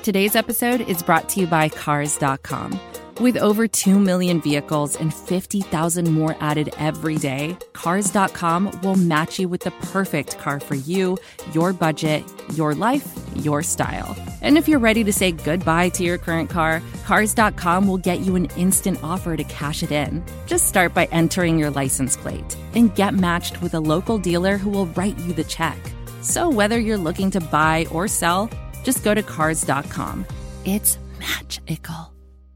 Today's episode is brought to you by Cars.com. With over 2 million vehicles and 50,000 more added every day, Cars.com will match you with the perfect car for you, your budget, your life, your style. And if you're ready to say goodbye to your current car, Cars.com will get you an instant offer to cash it in. Just start by entering your license plate and get matched with a local dealer who will write you the check. So whether you're looking to buy or sell, just go to Cars.com. It's magical.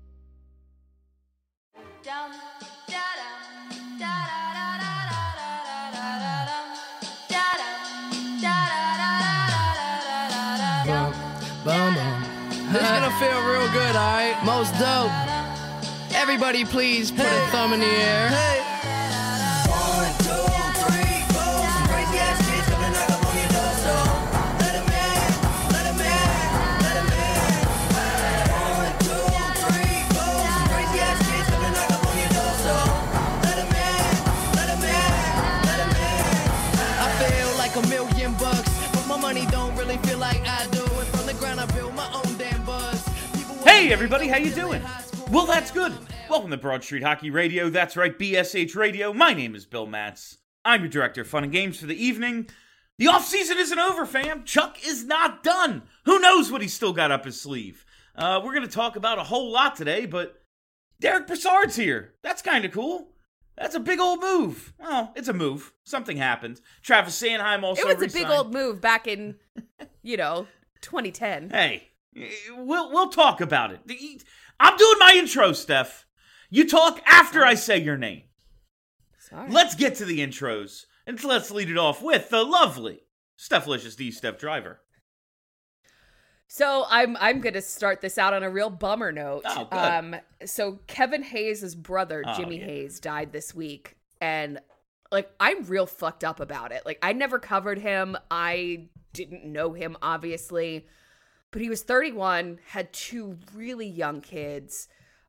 This is gonna feel real good, alright? Most dope. Everybody please put a thumb in the air. Hey. 1, 2, 3, 4. Some crazy ass kids coming knock up on your door, so let 'em in, let 'em in, let 'em in. 1, 2, 3, 4. Some crazy ass kids coming knock up on your door, so let 'em in, let 'em in, let 'em in. I feel like $1,000,000, but my money don't really feel like I do. And from the ground I build my own damn buzz. Hey everybody, how you doing? Well, that's good. Welcome to Broad Street Hockey Radio. That's right, BSH Radio. My name is Bill Matz. I'm your director of fun and games for the evening. The offseason isn't over, fam. Chuck is not done. Who knows what he's still got up his sleeve? We're going to talk about a whole lot today, but Derek Brassard's here. That's kind of cool. That's a big old move. Well, it's a move. Something happened. Travis Sanheim also It was resigned. a big old move back in, 2010. Hey, we'll talk about it. I'm doing my intro, Steph. You talk after I say your name. Sorry. Let's get to the intros, and let's lead it off with the lovely Stephlicious D. Steph Driver. So I'm going to start this out on a real bummer note. Oh, good. So Kevin Hayes' brother, Jimmy Hayes, died this week. And, I'm real fucked up about it. I never covered him. I didn't know him, obviously. But he was 31, had 2 really young kids.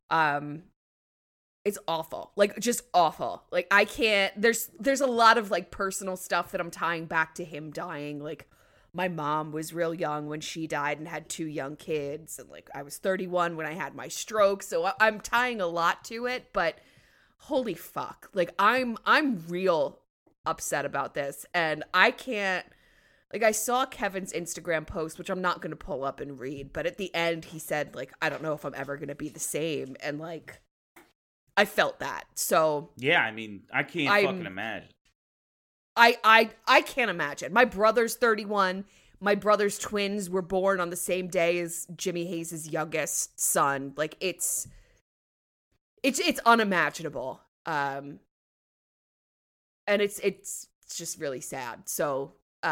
It's awful. Just awful. I can't, there's a lot of, personal stuff that I'm tying back to him dying. My mom was real young when she died and had 2 young kids. And, I was 31 when I had my stroke. So I'm tying a lot to it, but holy fuck. I'm real upset about this. And I can't, I saw Kevin's Instagram post, which I'm not going to pull up and read, but at the end he said, I don't know if I'm ever going to be the same. And, I felt that. So Yeah, I can't fucking imagine. I can't imagine. My brother's 31. My brother's twins were born on the same day as Jimmy Hayes' youngest son. It's unimaginable. And it's just really sad. So,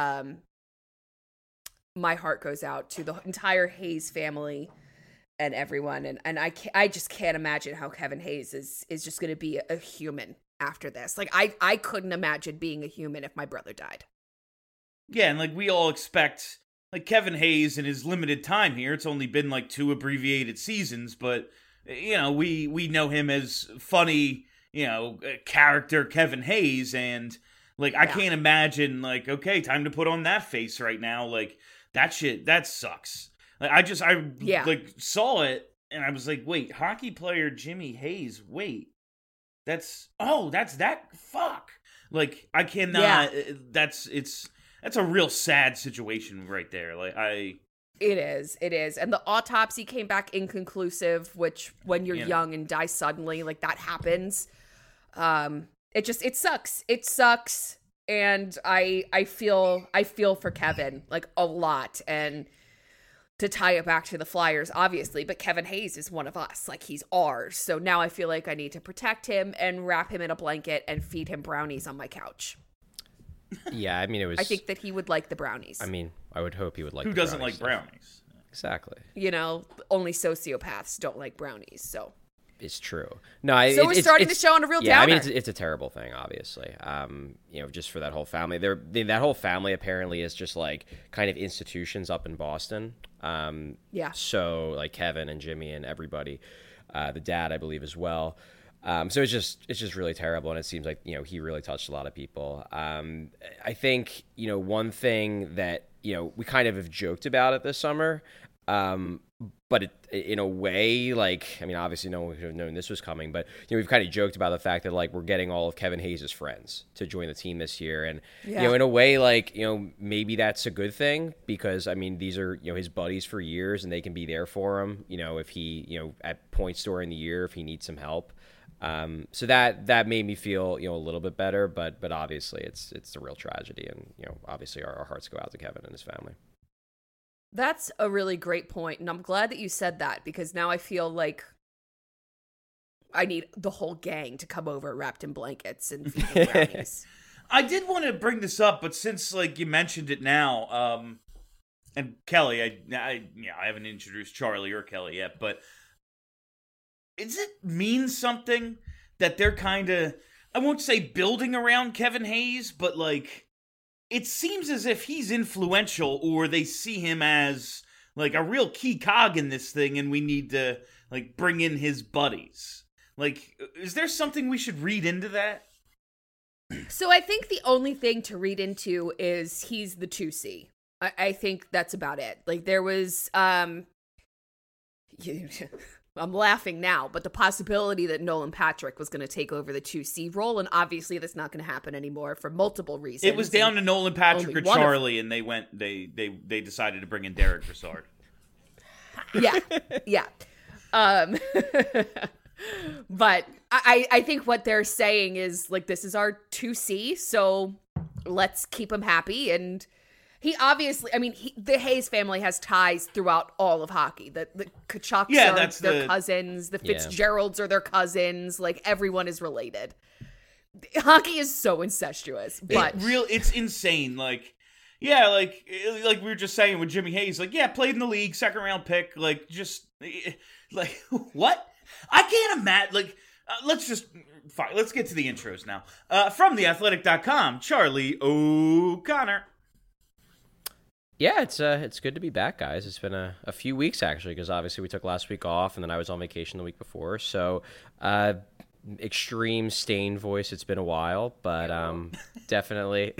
my heart goes out to the entire Hayes family and everyone. And I just can't imagine how Kevin Hayes is just going to be a human after this. I couldn't imagine being a human if my brother died. Yeah, and we all expect, Kevin Hayes in his limited time here, it's only been 2 abbreviated seasons, but, we know him as funny, character Kevin Hayes, and, I can't imagine, okay, time to put on that face right now, that shit, that sucks. I saw it, and I was like, wait, hockey player Jimmy Hayes, wait. That's that, fuck. I cannot, that's a real sad situation right there. It is. And the autopsy came back inconclusive, which when you're young and die suddenly, that happens. It sucks. It sucks. And I feel for Kevin, a lot. And to tie it back to the Flyers, obviously, but Kevin Hayes is one of us. He's ours. So now I feel like I need to protect him and wrap him in a blanket and feed him brownies on my couch. Yeah, it was... I think that he would like the brownies. I would hope he would like Who the doesn't brownies. like brownies? Exactly. Only sociopaths don't like brownies, so... It's true. No, so we're starting the show on a real downer. It's a terrible thing, obviously. Just for that whole family. That whole family apparently is just kind of institutions up in Boston. Yeah. So Kevin and Jimmy and everybody, the dad, I believe, as well. So it's just really terrible, and it seems like he really touched a lot of people. I think one thing that we kind of have joked about it this summer. But in a way, like, I mean, obviously no one could have known this was coming, but, we've kind of joked about the fact that, like, we're getting all of Kevin Hayes' friends to join the team this year. And, in a way, like, maybe that's a good thing because, I mean, these are, his buddies for years and they can be there for him, if he, at points during the year, if he needs some help. So that made me feel, a little bit better, but obviously it's a real tragedy. And, obviously our hearts go out to Kevin and his family. That's a really great point, and I'm glad that you said that because now I feel like I need the whole gang to come over wrapped in blankets and feed brownies. I did want to bring this up, but since like you mentioned it now, and Kelly, I haven't introduced Charlie or Kelly yet, but does it mean something that they're kind of, I won't say building around Kevin Hayes, but like, it seems as if he's influential or they see him as like a real key cog in this thing and we need to like bring in his buddies. Like, is there something we should read into that? So I think the only thing to read into is he's the 2C. I think that's about it. Like there was, I'm laughing now, but the possibility that Nolan Patrick was going to take over the 2C role, and obviously that's not going to happen anymore for multiple reasons. It was down to Nolan Patrick or Charlie, and they decided to bring in Derek Brassard. Yeah. But I think what they're saying is like this is our 2C, so let's keep him happy. And he obviously, I mean, the Hayes family has ties throughout all of hockey. The Kachucks are their cousins. The Fitzgeralds are their cousins. Like, everyone is related. Hockey is so incestuous. But it's insane. Like, yeah, like we were just saying with Jimmy Hayes, like, yeah, played in the league, second round pick. Like, just, like, what? I can't imagine, like, let's get to the intros now. From theathletic.com, Charlie O'Connor. Yeah, it's good to be back, guys. It's been a few weeks, actually, because obviously we took last week off, and then I was on vacation the week before. So, extreme stain voice. It's been a while, but definitely.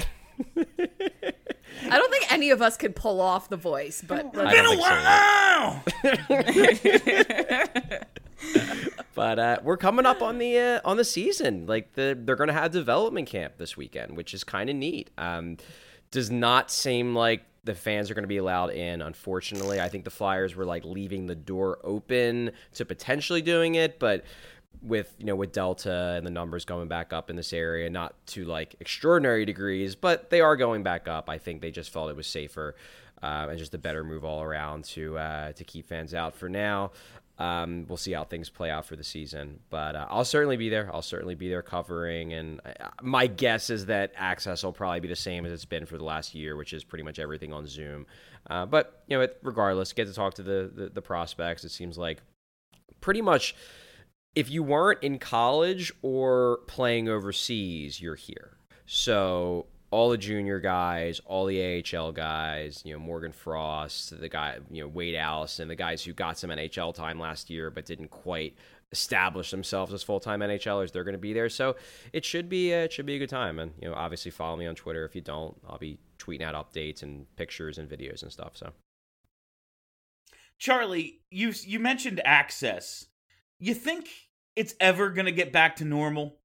I don't think any of us could pull off the voice, but it's been a while. But we're coming up on the season. Like they're going to have development camp this weekend, which is kind of neat. Does not seem like the fans are going to be allowed in, unfortunately. I think the Flyers were like leaving the door open to potentially doing it, but with Delta and the numbers going back up in this area, not to like extraordinary degrees, but they are going back up. I think they just felt it was safer and just a better move all around to keep fans out for now. We'll see how things play out for the season, but I'll certainly be there. I'll certainly be there covering, and my guess is that access will probably be the same as it's been for the last year, which is pretty much everything on Zoom. But regardless, get to talk to the prospects. It seems like pretty much if you weren't in college or playing overseas, you're here. So all the junior guys, all the AHL guys, Morgan Frost, the guy, Wade Allison, the guys who got some NHL time last year but didn't quite establish themselves as full-time NHLers, they're going to be there. So it should be a good time. And obviously follow me on Twitter. If you don't, I'll be tweeting out updates and pictures and videos and stuff. So, Charlie, you mentioned access. You think it's ever going to get back to normal?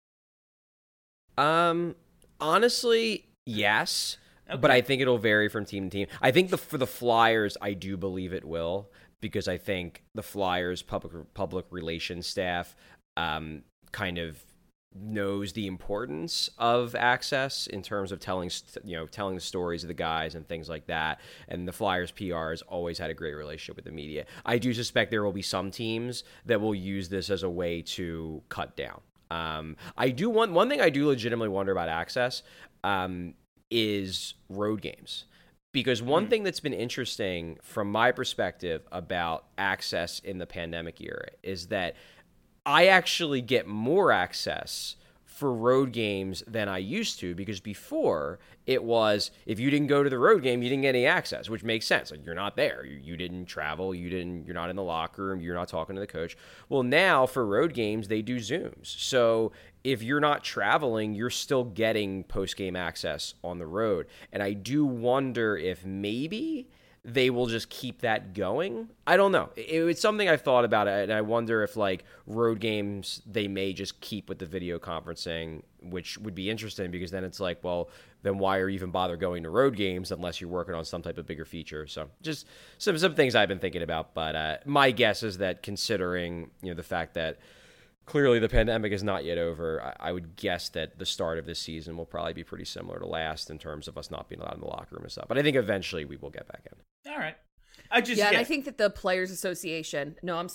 Honestly, yes, okay. But I think it'll vary from team to team. I think for the Flyers, I do believe it will, because I think the Flyers public relations staff kind of knows the importance of access in terms of telling the stories of the guys and things like that. And the Flyers PR has always had a great relationship with the media. I do suspect there will be some teams that will use this as a way to cut down. I do one thing I do legitimately wonder about access is road games. Because one thing that's been interesting from my perspective about access in the pandemic era is that I actually get more access for road games than I used to, because before it was, if you didn't go to the road game, you didn't get any access, which makes sense. Like, you're not there. You didn't travel. You're not in the locker room. You're not talking to the coach. Well, now for road games, they do Zooms. So if you're not traveling, you're still getting post-game access on the road. And I do wonder if maybe they will just keep that going. I don't know. It's something I've thought about, and I wonder if like road games they may just keep with the video conferencing, which would be interesting because then it's like, well, then why are you even bother going to road games unless you're working on some type of bigger feature? So just some things I've been thinking about. But my guess is that considering the fact that clearly the pandemic is not yet over, I would guess that the start of this season will probably be pretty similar to last in terms of us not being allowed in the locker room and stuff. But I think eventually we will get back in. All right. And I think that the Players Association,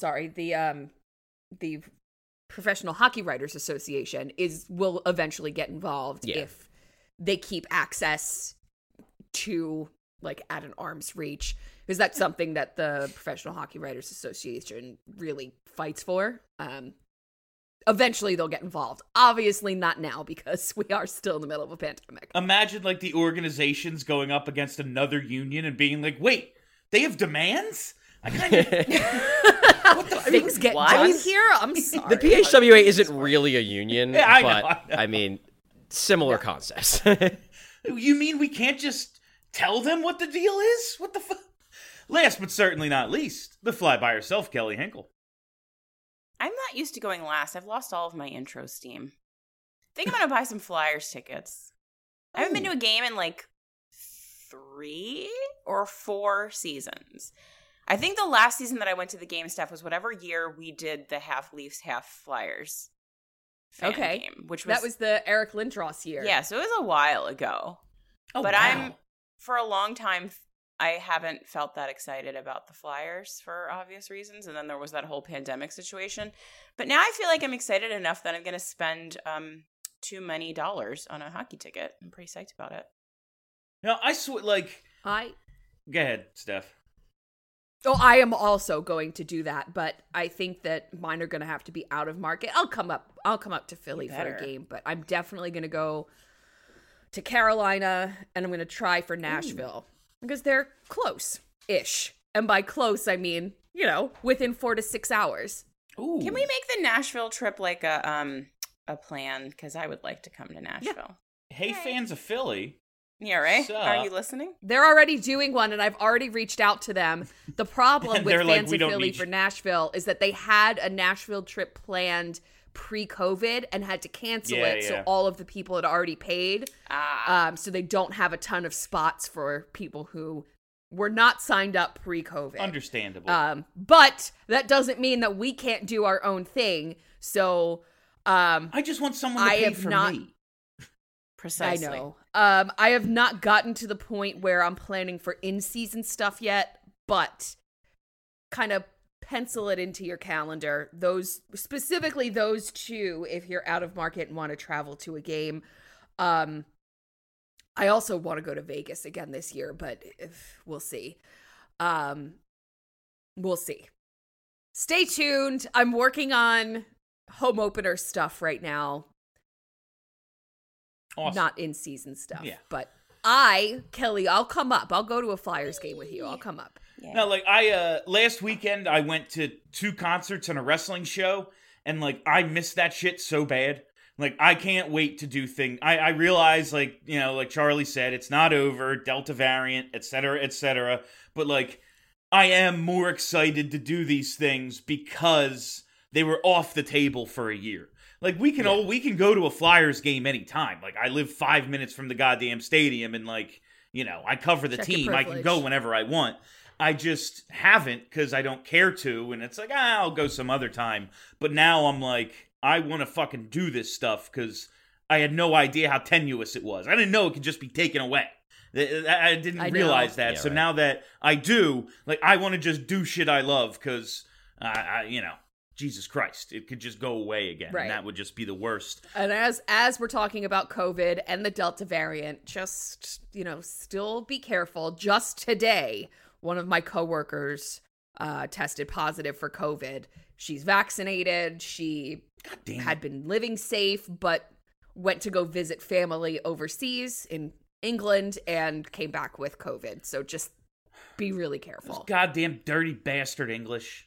the Professional Hockey Writers Association will eventually get involved if they keep access to like at an arm's reach, because that's something that the Professional Hockey Writers Association really fights for. Eventually they'll get involved. Obviously not now because we are still in the middle of a pandemic. Imagine like the organizations going up against another union and being like, wait, they have demands? I kind of... What the things get done here? I'm sorry. The PHWA isn't really a union, Yeah, I know. I mean, similar concepts. You mean we can't just tell them what the deal is? What the fuck? Last but certainly not least, the fly by herself, Kelly Hinkle. I'm not used to going last. I've lost all of my intro steam. I think I'm going to buy some Flyers tickets. I haven't been to a game in like 3 or 4 seasons. I think the last season that I went to the game, Steph, was whatever year we did the half Leafs, half Flyers fan game. That was the Eric Lindros year. Yeah, so it was a while ago. Oh, but wow. for a long time, I haven't felt that excited about the Flyers for obvious reasons. And then there was that whole pandemic situation. But now I feel like I'm excited enough that I'm going to spend too many dollars on a hockey ticket. I'm pretty psyched about it. No, I swear, Go ahead, Steph. Oh, I am also going to do that, but I think that mine are going to have to be out of market. I'll come up to Philly for a game, but I'm definitely going to go to Carolina, and I'm going to try for Nashville. Because they're close-ish. And by close, I mean, within 4 to 6 hours. Ooh. Can we make the Nashville trip like a plan? Because I would like to come to Nashville. Yeah. Hey, fans of Philly. Yeah, right? Are you listening? They're already doing one, and I've already reached out to them. The problem with fans of Philly for Nashville is that they had a Nashville trip planned pre-COVID and had to cancel it, so all of the people had already paid. So they don't have a ton of spots for people who were not signed up pre-COVID. Understandable. But that doesn't mean that we can't do our own thing. So I just want someone to pay for me. Precisely. I know. I have not gotten to the point where I'm planning for in-season stuff yet, but kind of pencil it into your calendar. Specifically those two, if you're out of market and want to travel to a game. I also want to go to Vegas again this year, but we'll see. We'll see. Stay tuned. I'm working on home opener stuff right now. Awesome. Not in-season stuff. Yeah. But Kelly, I'll come up. I'll go to a Flyers game with you. I'll come up. Yeah. No, last weekend I went to 2 concerts and a wrestling show, and I missed that shit so bad. I can't wait to do things. I realize, like Charlie said, it's not over, Delta variant, et cetera, but I am more excited to do these things because they were off the table for a year. We can go to a Flyers game anytime. I live 5 minutes from the goddamn stadium, and I cover the team. I can go whenever I want. I just haven't because I don't care to, and it's I'll go some other time. But now I'm I want to fucking do this stuff because I had no idea how tenuous it was. I didn't know it could just be taken away. I didn't realize that. Yeah, so right. now that I do, I want to just do shit I love because, Jesus Christ, it could just go away again. Right. And that would just be the worst. And as we're talking about COVID and the Delta variant, just, still be careful. Just today, one of my coworkers tested positive for COVID. She's vaccinated. She had been living safe, but went to go visit family overseas in England and came back with COVID. So just be really careful. Those goddamn dirty bastard English.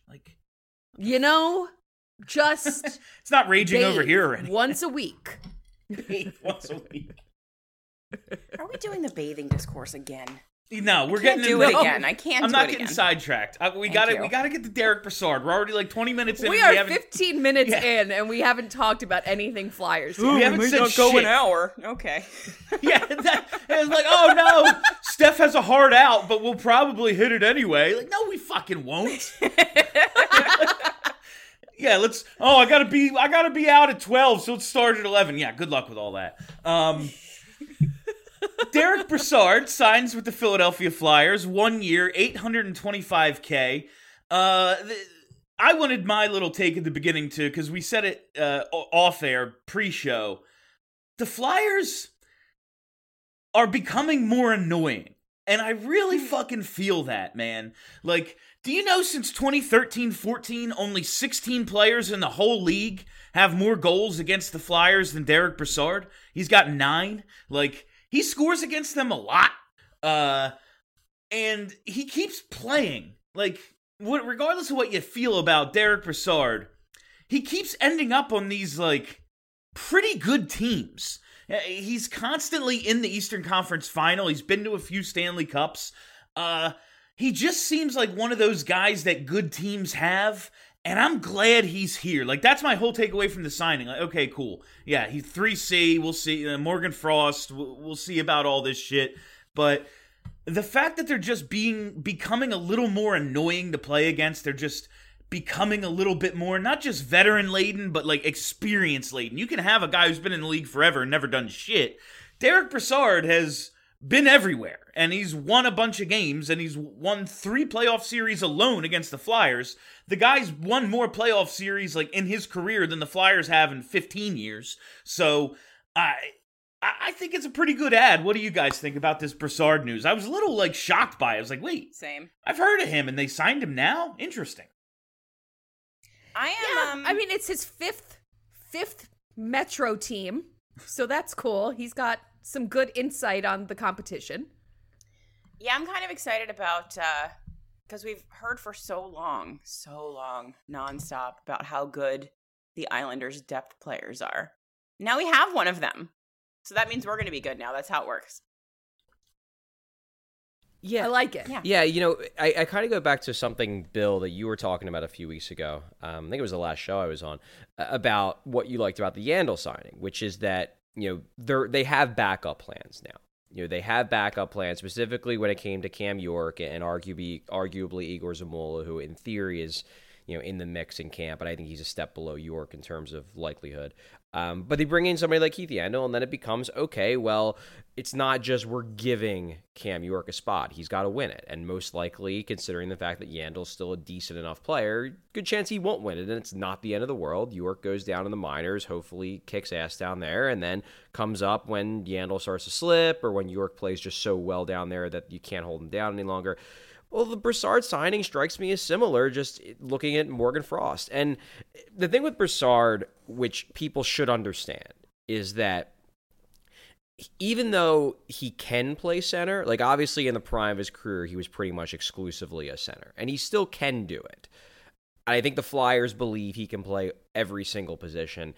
Just it's not raging over here or anything. Once a week. Once a week. Are we doing the bathing discourse again? No, we're Can't getting do it again. I can't I'm do not it getting again. sidetracked. We you. gotta get to Derek Brassard. We're already like 20 minutes in. We and are haven't 15 minutes Yeah. in, and we haven't talked about anything Flyers yet. we haven't said shit. hour. Okay. Yeah, it's like, oh no, Steph has a hard out, but we'll probably hit it anyway. Like, no, we fucking won't. Yeah, let's. Oh, I gotta be out at 12, so let's start at 11. Yeah, good luck with all that. Derek Brassard signs with the Philadelphia Flyers, 1 year, $825K. I wanted my little take at the beginning too, because we said it off air pre-show. The Flyers are becoming more annoying, and I really fucking feel that, man. Like, do you know since 2013-14, only 16 players in the whole league have more goals against the Flyers than Derek Brassard? He's got 9. Like, he scores against them a lot. And he keeps playing. Like, regardless of what you feel about Derek Brassard, he keeps ending up on these, like, pretty good teams. He's constantly in the Eastern Conference Final. He's been to a few Stanley Cups. He just seems like one of those guys that good teams have, and I'm glad he's here. Like, that's my whole takeaway from the signing. Like, okay, cool. Yeah, he's 3C. We'll see. Morgan Frost. We'll see about all this shit. But the fact that they're just becoming a little more annoying to play against, they're just becoming a little bit more, not just veteran-laden, but, like, experience-laden. You can have a guy who's been in the league forever and never done shit. Derek Brassard has been everywhere, and he's won a bunch of games, and he's won 3 playoff series alone against the Flyers. The guy's won more playoff series, like, in his career than the Flyers have in 15 years. So, I think it's a pretty good ad. What do you guys think about this Brassard news? I was a little, like, shocked by it. I was like, wait, Same. I've heard of him, and they signed him now? Interesting. I am. I mean, it's his fifth Metro team, so that's cool. He's got some good insight on the competition. Yeah, I'm kind of excited about because we've heard for so long, nonstop about how good the Islanders' depth players are. Now we have one of them, so that means we're going to be good now. That's how it works. Yeah, I like it. Yeah, you know, I kind of go back to something, Bill, that you were talking about a few weeks ago. I think it was the last show I was on, about what you liked about the Yandel signing, which is that, you know, they have backup plans now. You know, they have backup plans, specifically when it came to Cam York and arguably Igor Zamula, who in theory is, you know, in the mix in camp, but I think he's a step below York in terms of likelihood. But they bring in somebody like Keith Yandel, and then it becomes, okay, well, it's not just we're giving Cam York a spot. He's got to win it. And most likely, considering the fact that Yandel's still a decent enough player, good chance he won't win it, and it's not the end of the world. York goes down in the minors, hopefully kicks ass down there, and then comes up when Yandel starts to slip, or when York plays just so well down there that you can't hold him down any longer. Well, the Brassard signing strikes me as similar, just looking at Morgan Frost. And the thing with Brassard, which people should understand, is that even though he can play center, like obviously in the prime of his career, he was pretty much exclusively a center, and he still can do it. I think the Flyers believe he can play every single position.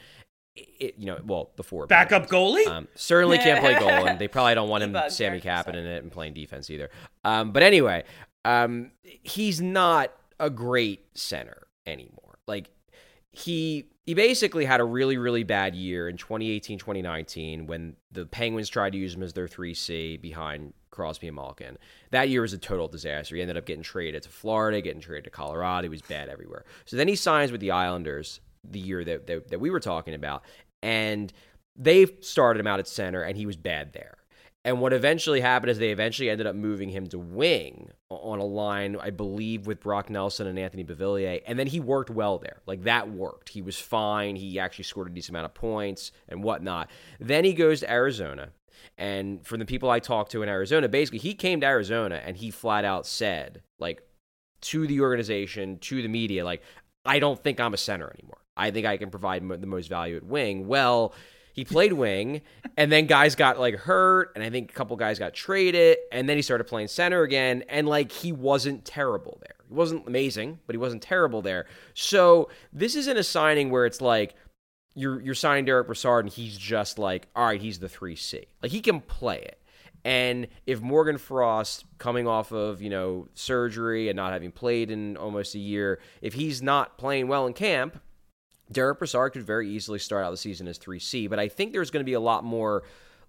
The four Backup goalie? Certainly can't play goal, and they probably don't want him Sammy Kapanen in it and playing defense either. But anyway, he's not a great center anymore. Like, he basically had a really, really bad year in 2018-2019 when the Penguins tried to use him as their 3C behind Crosby and Malkin. That year was a total disaster. He ended up getting traded to Florida, getting traded to Colorado. He was bad everywhere. So then he signs with the Islanders the year that we were talking about, and they started him out at center, and he was bad there. And what eventually happened is they eventually ended up moving him to wing on a line, I believe, with Brock Nelson and Anthony Beauvillier, and then he worked well there. Like, that worked. He was fine. He actually scored a decent amount of points and whatnot. Then he goes to Arizona, and from the people I talked to in Arizona, basically, he came to Arizona, and he flat out said, like, to the organization, to the media, like, I don't think I'm a center anymore. I think I can provide the most value at wing. Well, he played wing, and then guys got, like, hurt, and I think a couple guys got traded, and then he started playing center again, and, like, he wasn't terrible there. He wasn't amazing, but he wasn't terrible there. So this isn't a signing where it's like you're signing Derek Brassard, and he's just like, all right, he's the 3C. Like, he can play it. And if Morgan Frost, coming off of, surgery and not having played in almost a year, if he's not playing well in camp, Derek Brassard could very easily start out the season as 3C. But I think there's going to be a lot more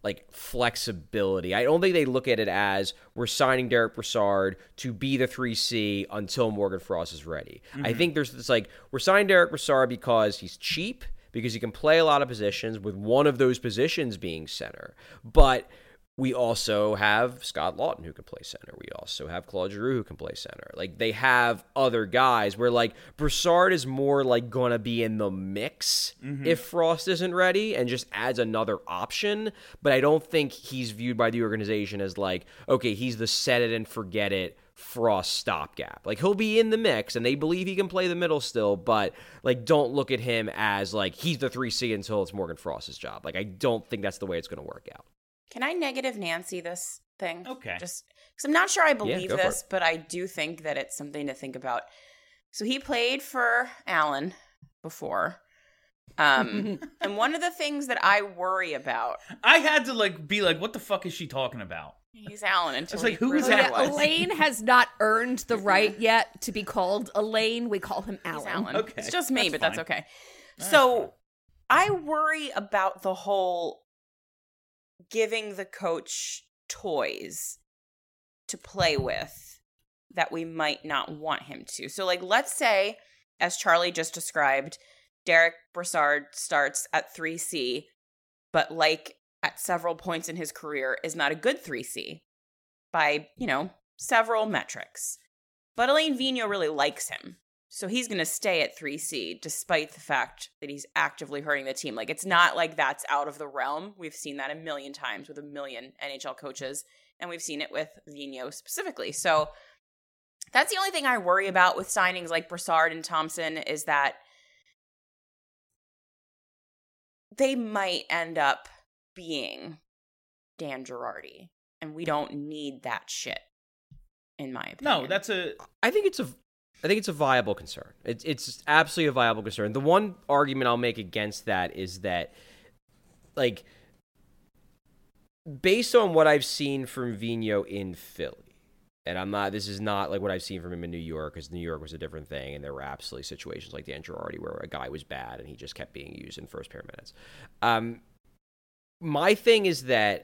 flexibility. I don't think they look at it as we're signing Derek Brassard to be the 3C until Morgan Frost is ready. I think there's this we're signing Derek Brassard because he's cheap, because he can play a lot of positions, with one of those positions being center. But we also have Scott Lawton who can play center. We also have Claude Giroux who can play center. They have other guys where Brassard is more going to be in the mix if Frost isn't ready and just adds another option. But I don't think he's viewed by the organization as okay, he's the set it and forget it Frost stopgap. He'll be in the mix and they believe he can play the middle still, but don't look at him as he's the 3C until it's Morgan Frost's job. I don't think that's the way it's going to work out. Can I negative Nancy this thing? Okay. Just because I'm not sure I believe go for this, it. but I do think that it's something to think about. So he played for Allen before. And one of the things that I worry about. I had to be what the fuck is she talking about? He's Allen until It's who is really that? was. Elaine has not earned the right yet to be called Elaine. We call him He's Alan. Allen. Okay, It's just me, that's but that's fine. okay. That's So I worry about the whole giving the coach toys to play with that we might not want him to. So let's say, as Charlie just described, Derek Brassard starts at 3C, but at several points in his career is not a good 3C by, several metrics. But Elaine Vigneault really likes him. So he's going to stay at 3C despite the fact that he's actively hurting the team. It's not that's out of the realm. We've seen that a million times with a million NHL coaches, and we've seen it with Vigneault specifically. So that's the only thing I worry about with signings like Brassard and Thompson, is that they might end up being Dan Girardi, and we don't need that shit, in my opinion. No, I think it's a viable concern. It's absolutely a viable concern. The one argument I'll make against that is that, based on what I've seen from Vigneault in Philly, and this is not what I've seen from him in New York, because New York was a different thing, and there were absolutely situations like Dan Girardi where a guy was bad and he just kept being used in first pair minutes. My thing is that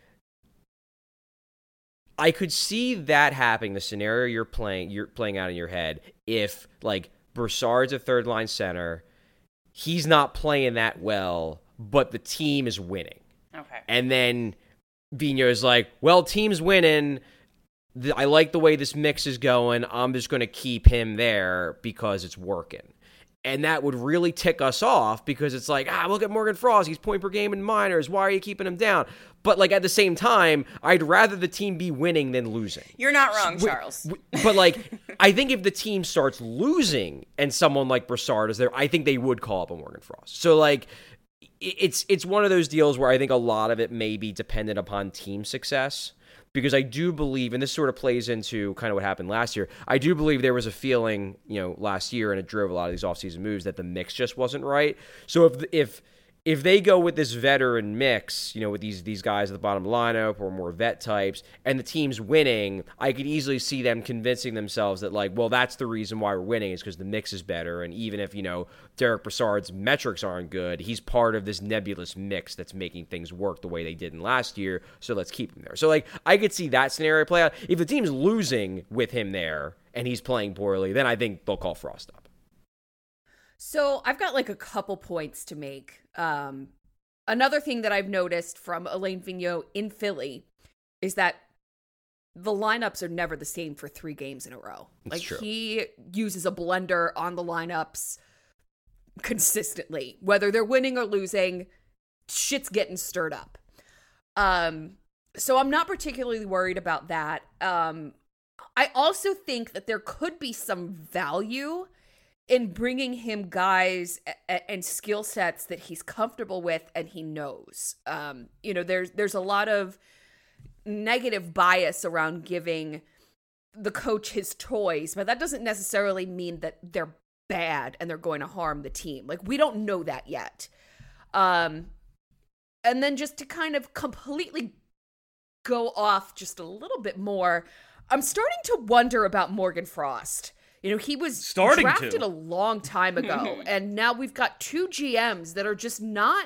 I could see that happening, the scenario you're playing out in your head, if Brassard's a third line center, he's not playing that well, but the team is winning. Okay. And then Vigneault is well, team's winning. I like the way this mix is going. I'm just going to keep him there because it's working. And that would really tick us off, because it's look at Morgan Frost. He's point per game in minors. Why are you keeping him down? But at the same time, I'd rather the team be winning than losing. You're not wrong, Charles. But I think if the team starts losing and someone like Brassard is there, I think they would call up a Morgan Frost. So it's one of those deals where I think a lot of it may be dependent upon team success. Because I do believe, and this sort of plays into kind of what happened last year, I do believe there was a feeling, last year, and it drove a lot of these offseason moves, that the mix just wasn't right. So if they go with this veteran mix, with these guys at the bottom of the lineup or more vet types, and the team's winning, I could easily see them convincing themselves that well, that's the reason why we're winning, is because the mix is better. And even if Derek Brassard's metrics aren't good, he's part of this nebulous mix that's making things work the way they did in last year. So let's keep him there. So I could see that scenario play out. If the team's losing with him there and he's playing poorly, then I think they'll call Frost up. So I've got a couple points to make. Another thing that I've noticed from Elaine Vigneault in Philly is that the lineups are never the same for 3 games in a row. That's true. He uses a blender on the lineups consistently. Whether they're winning or losing, shit's getting stirred up. So I'm not particularly worried about that. I also think that there could be some value in bringing him guys and skill sets that he's comfortable with and he knows. There's a lot of negative bias around giving the coach his toys, but that doesn't necessarily mean that they're bad and they're going to harm the team. We don't know that yet. And then just to kind of completely go off just a little bit more, I'm starting to wonder about Morgan Frost. You know, he was drafted a long time ago, and now we've got 2 GMs that are just not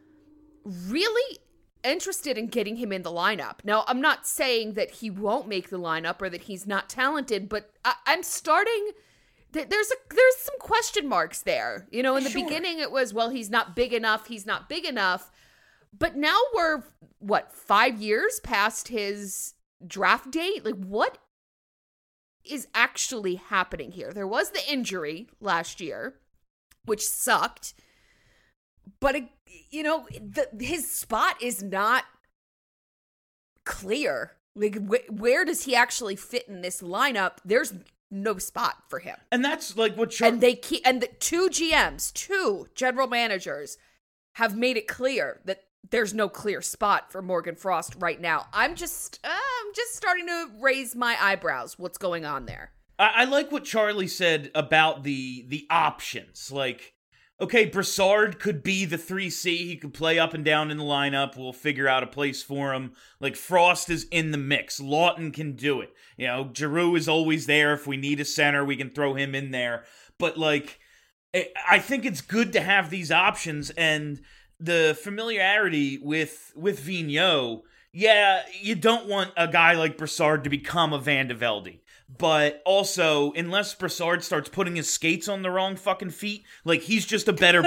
really interested in getting him in the lineup. Now, I'm not saying that he won't make the lineup or that he's not talented, but I'm starting... There's some question marks there. You know, in the beginning it was, well, he's not big enough. But now we're, 5 years past his draft date? Like, what is actually happening here? There was the injury last year, which sucked. But, his spot is not clear. Like, where does he actually fit in this lineup? There's no spot for him. And that's like what and the 2 GMs, 2 general managers have made it clear that there's no clear spot for Morgan Frost right now. I'm just starting to raise my eyebrows. What's going on there? I like what Charlie said about the options. Like, okay, Brassard could be the 3C. He could play up and down in the lineup. We'll figure out a place for him. Like, Frost is in the mix. Lawton can do it. You know, Giroux is always there. If we need a center, we can throw him in there. But, like, I think it's good to have these options, and the familiarity with Vigneault, yeah, you don't want a guy like Brassard to become a Van de Velde. But also, unless Brassard starts putting his skates on the wrong fucking feet, like, he's just a better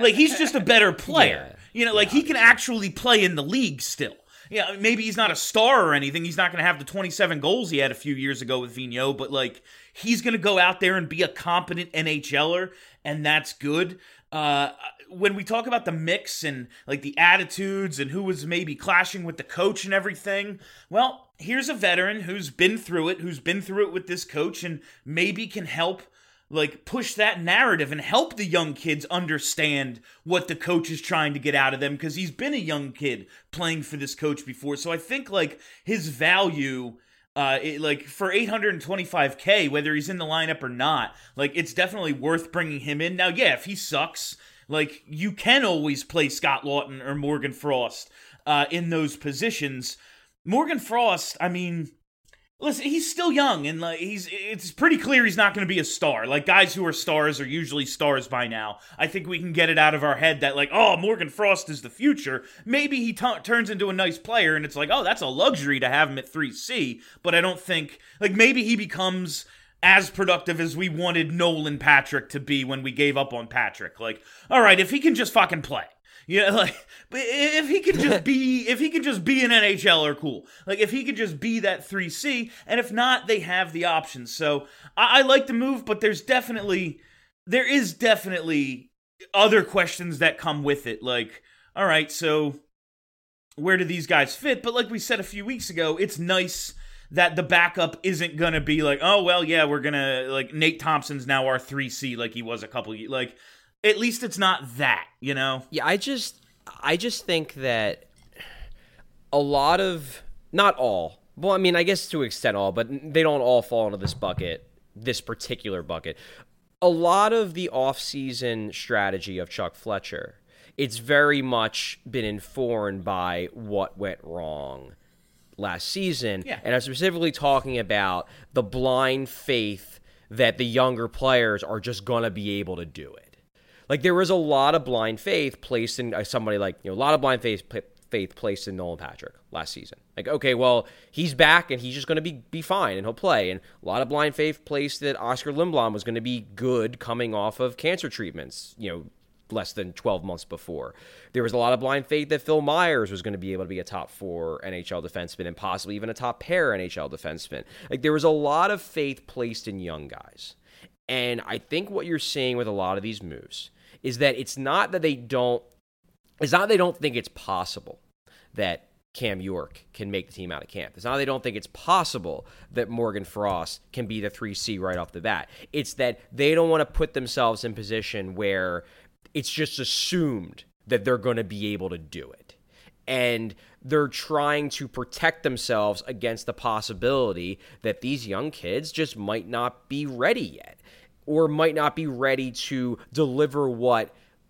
player. Yeah. You know, like, he can actually play in the league still. Yeah, maybe he's not a star or anything. He's not going to have the 27 goals he had a few years ago with Vigneault, but, like, he's going to go out there and be a competent NHLer, and that's good. When we talk about the mix and, like, the attitudes and who was maybe clashing with the coach and everything, well, here's a veteran who's been through it with this coach, and maybe can help, like, push that narrative and help the young kids understand what the coach is trying to get out of them, because he's been a young kid playing for this coach before. So I think, like, his value, for $825K, whether he's in the lineup or not, like, it's definitely worth bringing him in. Now, yeah, if he sucks, like, you can always play Scott Lawton or Morgan Frost in those positions. Morgan Frost, I mean, listen, he's still young, and like it's pretty clear he's not going to be a star. Like, guys who are stars are usually stars by now. I think we can get it out of our head that, like, oh, Morgan Frost is the future. Maybe he turns into a nice player, and it's like, oh, that's a luxury to have him at 3C. But I don't think, like, maybe he becomes as productive as we wanted Nolan Patrick to be when we gave up on Patrick. Like, all right, if he can just fucking play. Yeah, like, but if he could just be an NHLer, cool. Like, if he could just be that 3C, and if not, they have the options. So I like the move, but there is definitely other questions that come with it. Like, all right, so where do these guys fit? But like we said a few weeks ago, it's nice that the backup isn't gonna be like, oh well, yeah, we're gonna, like, Nate Thompson's now our 3C like he was a couple years, like. At least it's not that, you know? Yeah, I just think that a lot of, not all, well, I mean, I guess to an extent all, but they don't all fall into this particular bucket. A lot of the offseason strategy of Chuck Fletcher, it's very much been informed by what went wrong last season. Yeah. And I'm specifically talking about the blind faith that the younger players are just going to be able to do it. Like, there was a lot of blind faith placed in somebody like, a lot of blind faith placed in Nolan Patrick last season. Like, okay, well, he's back and he's just going to be fine and he'll play. And a lot of blind faith placed that Oscar Lindblom was going to be good coming off of cancer treatments, less than 12 months before. There was a lot of blind faith that Phil Myers was going to be able to be a top 4 NHL defenseman and possibly even a top pair NHL defenseman. Like, there was a lot of faith placed in young guys. And I think what you're seeing with a lot of these moves is that it's not that they don't think it's possible that Cam York can make the team out of camp. It's not that they don't think it's possible that Morgan Frost can be the 3C right off the bat. It's that they don't want to put themselves in position where it's just assumed that they're going to be able to do it. And they're trying to protect themselves against the possibility that these young kids just might not be ready yet, or might not be ready to deliver what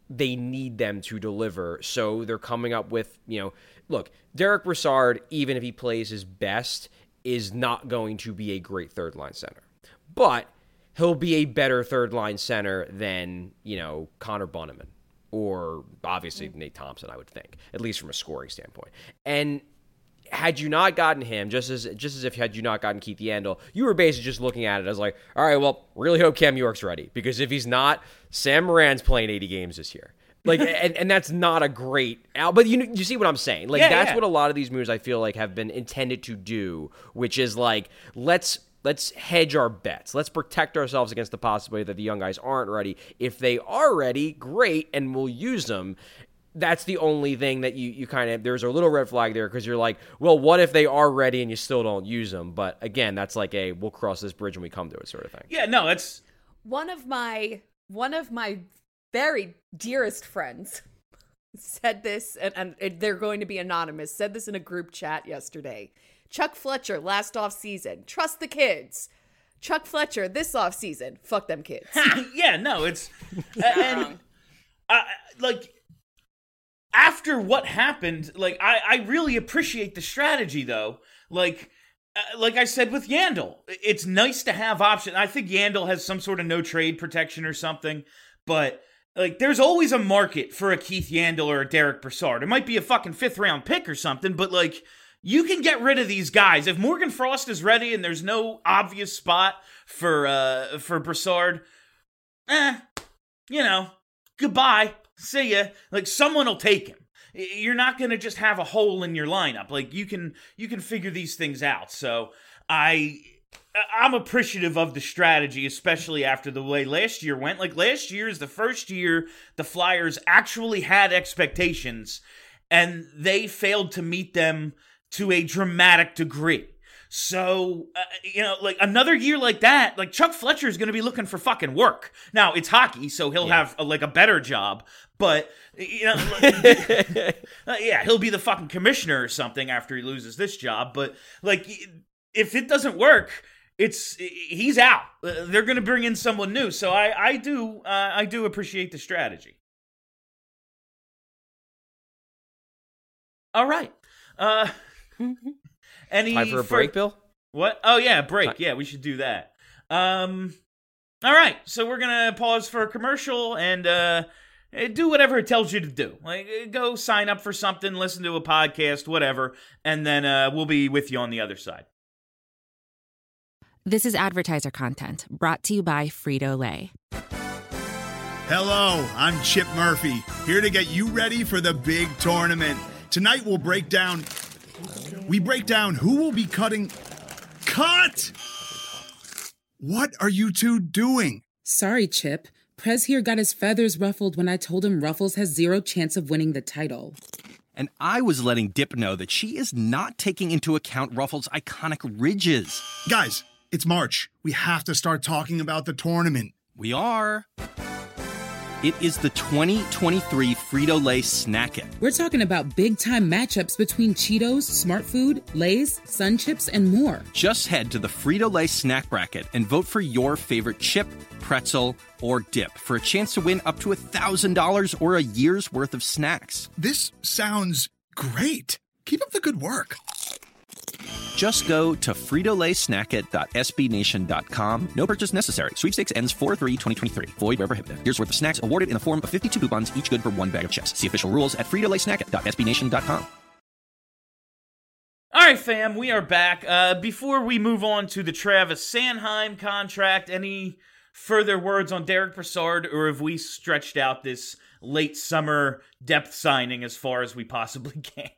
they need them to deliver. So they're coming up with, look, Derek Brassard, even if he plays his best, is not going to be a great third-line center. But he'll be a better third-line center than, Connor Bunnaman or obviously Nate Thompson, I would think, at least from a scoring standpoint. And had you not gotten him, just as if had you not gotten Keith Yandle, you were basically just looking at it as like, all right, well, really hope Cam York's ready, because if he's not, Sam Moran's playing 80 games this year. Like, and that's not a great out, but you see what I'm saying? Like, that's what a lot of these moves I feel like have been intended to do, which is like, let's hedge our bets. Let's protect ourselves against the possibility that the young guys aren't ready. If they are ready, great, and we'll use them. That's the only thing that you kind of, there's a little red flag there, because you're like, well, what if they are ready and you still don't use them? But again, that's like we'll cross this bridge when we come to it sort of thing. Yeah, no, it's one of my very dearest friends said this, and they're going to be anonymous, said this in a group chat yesterday. Chuck Fletcher last offseason, trust the kids. Chuck Fletcher this offseason, fuck them kids. yeah, no, it's and like, after what happened, like, I really appreciate the strategy, though. Like I said with Yandle, it's nice to have options. I think Yandle has some sort of no trade protection or something, but like, there's always a market for a Keith Yandle or a Derek Brassard. It might be a fucking 5th round pick or something, but like, you can get rid of these guys. If Morgan Frost is ready and there's no obvious spot for Brassard, goodbye. See ya. Like, someone will take him. You're not going to just have a hole in your lineup. Like, you can figure these things out. So I'm appreciative of the strategy, especially after the way last year went. Like, last year is the first year the Flyers actually had expectations, and they failed to meet them to a dramatic degree. So, like, another year like that, like, Chuck Fletcher is going to be looking for fucking work. Now, it's hockey, so he'll have, a better job, but, he'll be the fucking commissioner or something after he loses this job, but, like, if it doesn't work, he's out. They're going to bring in someone new, so I do appreciate the strategy. All right. Time for a break, Bill? What? Oh, yeah, break. Yeah, we should do that. All right, so we're going to pause for a commercial and do whatever it tells you to do. Like, go sign up for something, listen to a podcast, whatever, and then we'll be with you on the other side. This is advertiser content brought to you by Frito-Lay. Hello, I'm Chip Murphy, here to get you ready for the big tournament. Tonight we'll break down who will be cutting. Cut! What are you two doing? Sorry, Chip. Prez here got his feathers ruffled when I told him Ruffles has 0 chance of winning the title. And I was letting Dip know that she is not taking into account Ruffles' iconic ridges. Guys, it's March. We have to start talking about the tournament. We are. It is the 2023 Frito-Lay Snack It. We're talking about big-time matchups between Cheetos, Smart Food, Lay's, Sun Chips, and more. Just head to the Frito-Lay Snack Bracket and vote for your favorite chip, pretzel, or dip for a chance to win up to $1,000 or a year's worth of snacks. This sounds great. Keep up the good work. Just go to fritolaysnackit.sbnation.com. No purchase necessary. Sweepstakes ends 4/3/2023. Void where prohibited. Year's worth of snacks awarded in the form of 52 coupons, each good for 1 bag of chips. See official rules at fritolaysnackit.sbnation.com. All right, fam, we are back. Before we move on to the Travis Sanheim contract, any further words on Derek Brassard, or have we stretched out this late summer depth signing as far as we possibly can?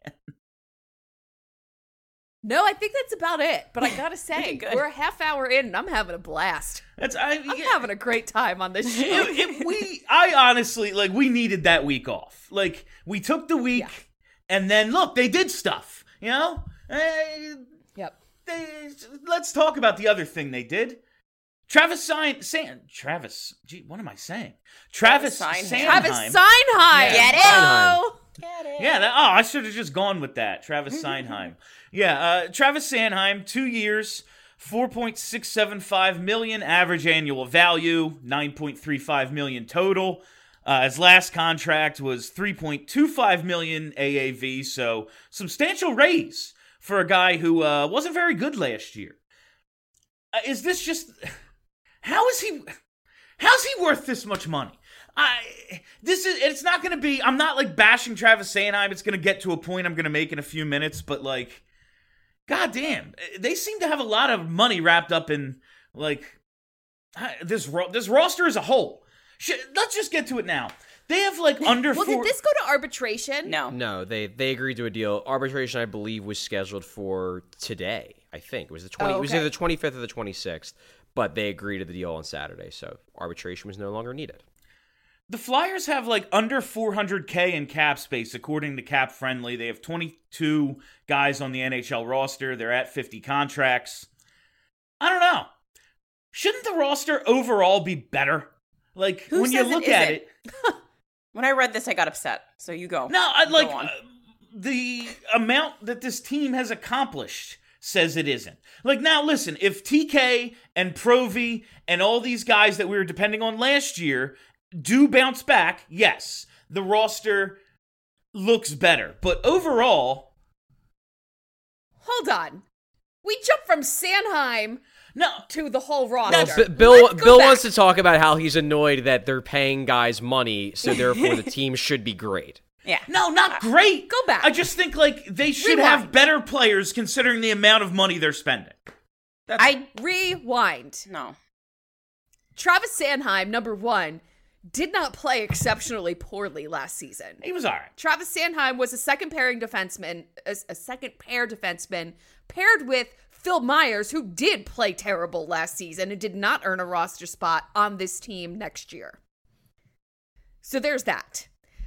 No, I think that's about it. But I gotta say, we're a half hour in, and I'm having a blast. I'm having a great time on this show. I honestly, like, we needed that week off. Like, we took the week, and then look, they did stuff. You know? Yep. Let's talk about the other thing they did. Travis Sanheim. What am I saying? Travis Sanheim. Travis Sanheim. Get it? Oh. Get it? Yeah, I should have just gone with that. Travis Sanheim. Yeah, Travis Sanheim, 2 years, $4.675 million average annual value, $9.35 million total. His last contract was $3.25 million AAV, so substantial raise for a guy who wasn't very good last year. Is this just... How's he worth this much money? It's not going to be... I'm not, like, bashing Travis Sanheim. It's going to get to a point I'm going to make in a few minutes, but, like, goddamn, they seem to have a lot of money wrapped up in, like, this roster as a whole. Let's just get to it now. They have, like, under well, did this go to arbitration? No, they agreed to a deal. Arbitration, I believe, was scheduled for today, I think. It was It was either the 25th or the 26th, but they agreed to the deal on Saturday, so arbitration was no longer needed. The Flyers have, like, under $400K in cap space, according to Cap Friendly. They have 22 guys on the NHL roster. They're at 50 contracts. I don't know. Shouldn't the roster overall be better? Like, Who when you says look it at isn't? it... When I read this, I got upset. So you go. No, Go on. The amount that this team has accomplished says it isn't. Like, now listen, if TK and Provy and all these guys that we were depending on last year do bounce back, yes, the roster looks better. But overall... Hold on. We jumped from Sanheim to the whole roster. Bill wants to talk about how he's annoyed that they're paying guys money, so therefore the team should be great. Yeah. No, not great. Go back. I just think, like, they should have better players considering the amount of money they're spending. Rewind. No. Travis Sanheim, number one, did not play exceptionally poorly last season. He was all right. Travis Sanheim was a second pair defenseman paired with Phil Myers, who did play terrible last season and did not earn a roster spot on this team next year. So there's that.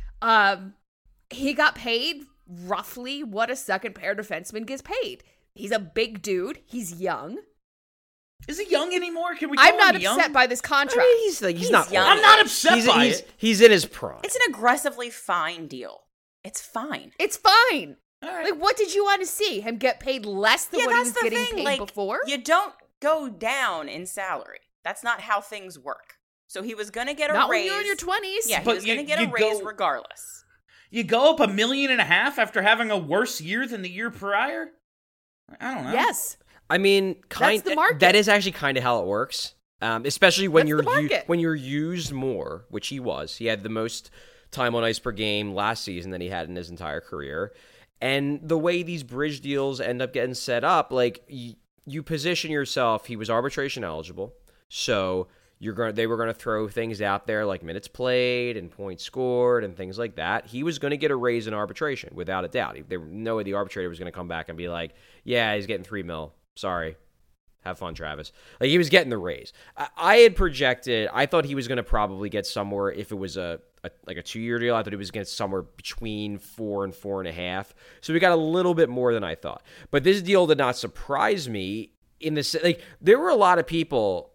He got paid roughly what a second pair defenseman gets paid. He's a big dude. He's young. Is he young anymore? Can we call I'm not him young? upset by this contract. I mean, he's not young. I'm not upset by it. He's in his prime. It's an aggressively fine deal. It's fine. It's fine. All right. Like, what did you want to see? Him get paid less than what he was getting paid before? You don't go down in salary. That's not how things work. So he was going to get a Not raise. when you're in your 20s. Yeah, he was going to get a raise regardless. You go up $1.5 million after having a worse year than the year prior? I don't know. Yes. I mean, That's the market. that is actually kind of how it works. Especially when That's the market. when you're used more, which he was. He had the most time on ice per game last season than he had in his entire career. And the way these bridge deals end up getting set up, like you position yourself. He was arbitration eligible, so they were going to throw things out there like minutes played and points scored and things like that. He was going to get a raise in arbitration without a doubt. There was no way the arbitrator was going to come back and be like, "Yeah, he's getting $3 million. Sorry." Have fun, Travis. Like, he was getting the raise. I had projected, I thought he was going to probably get somewhere, if it was a 2-year deal, I thought he was going to get somewhere between 4 and 4.5. So we got a little bit more than I thought. But this deal did not surprise me in the, like, there were a lot of people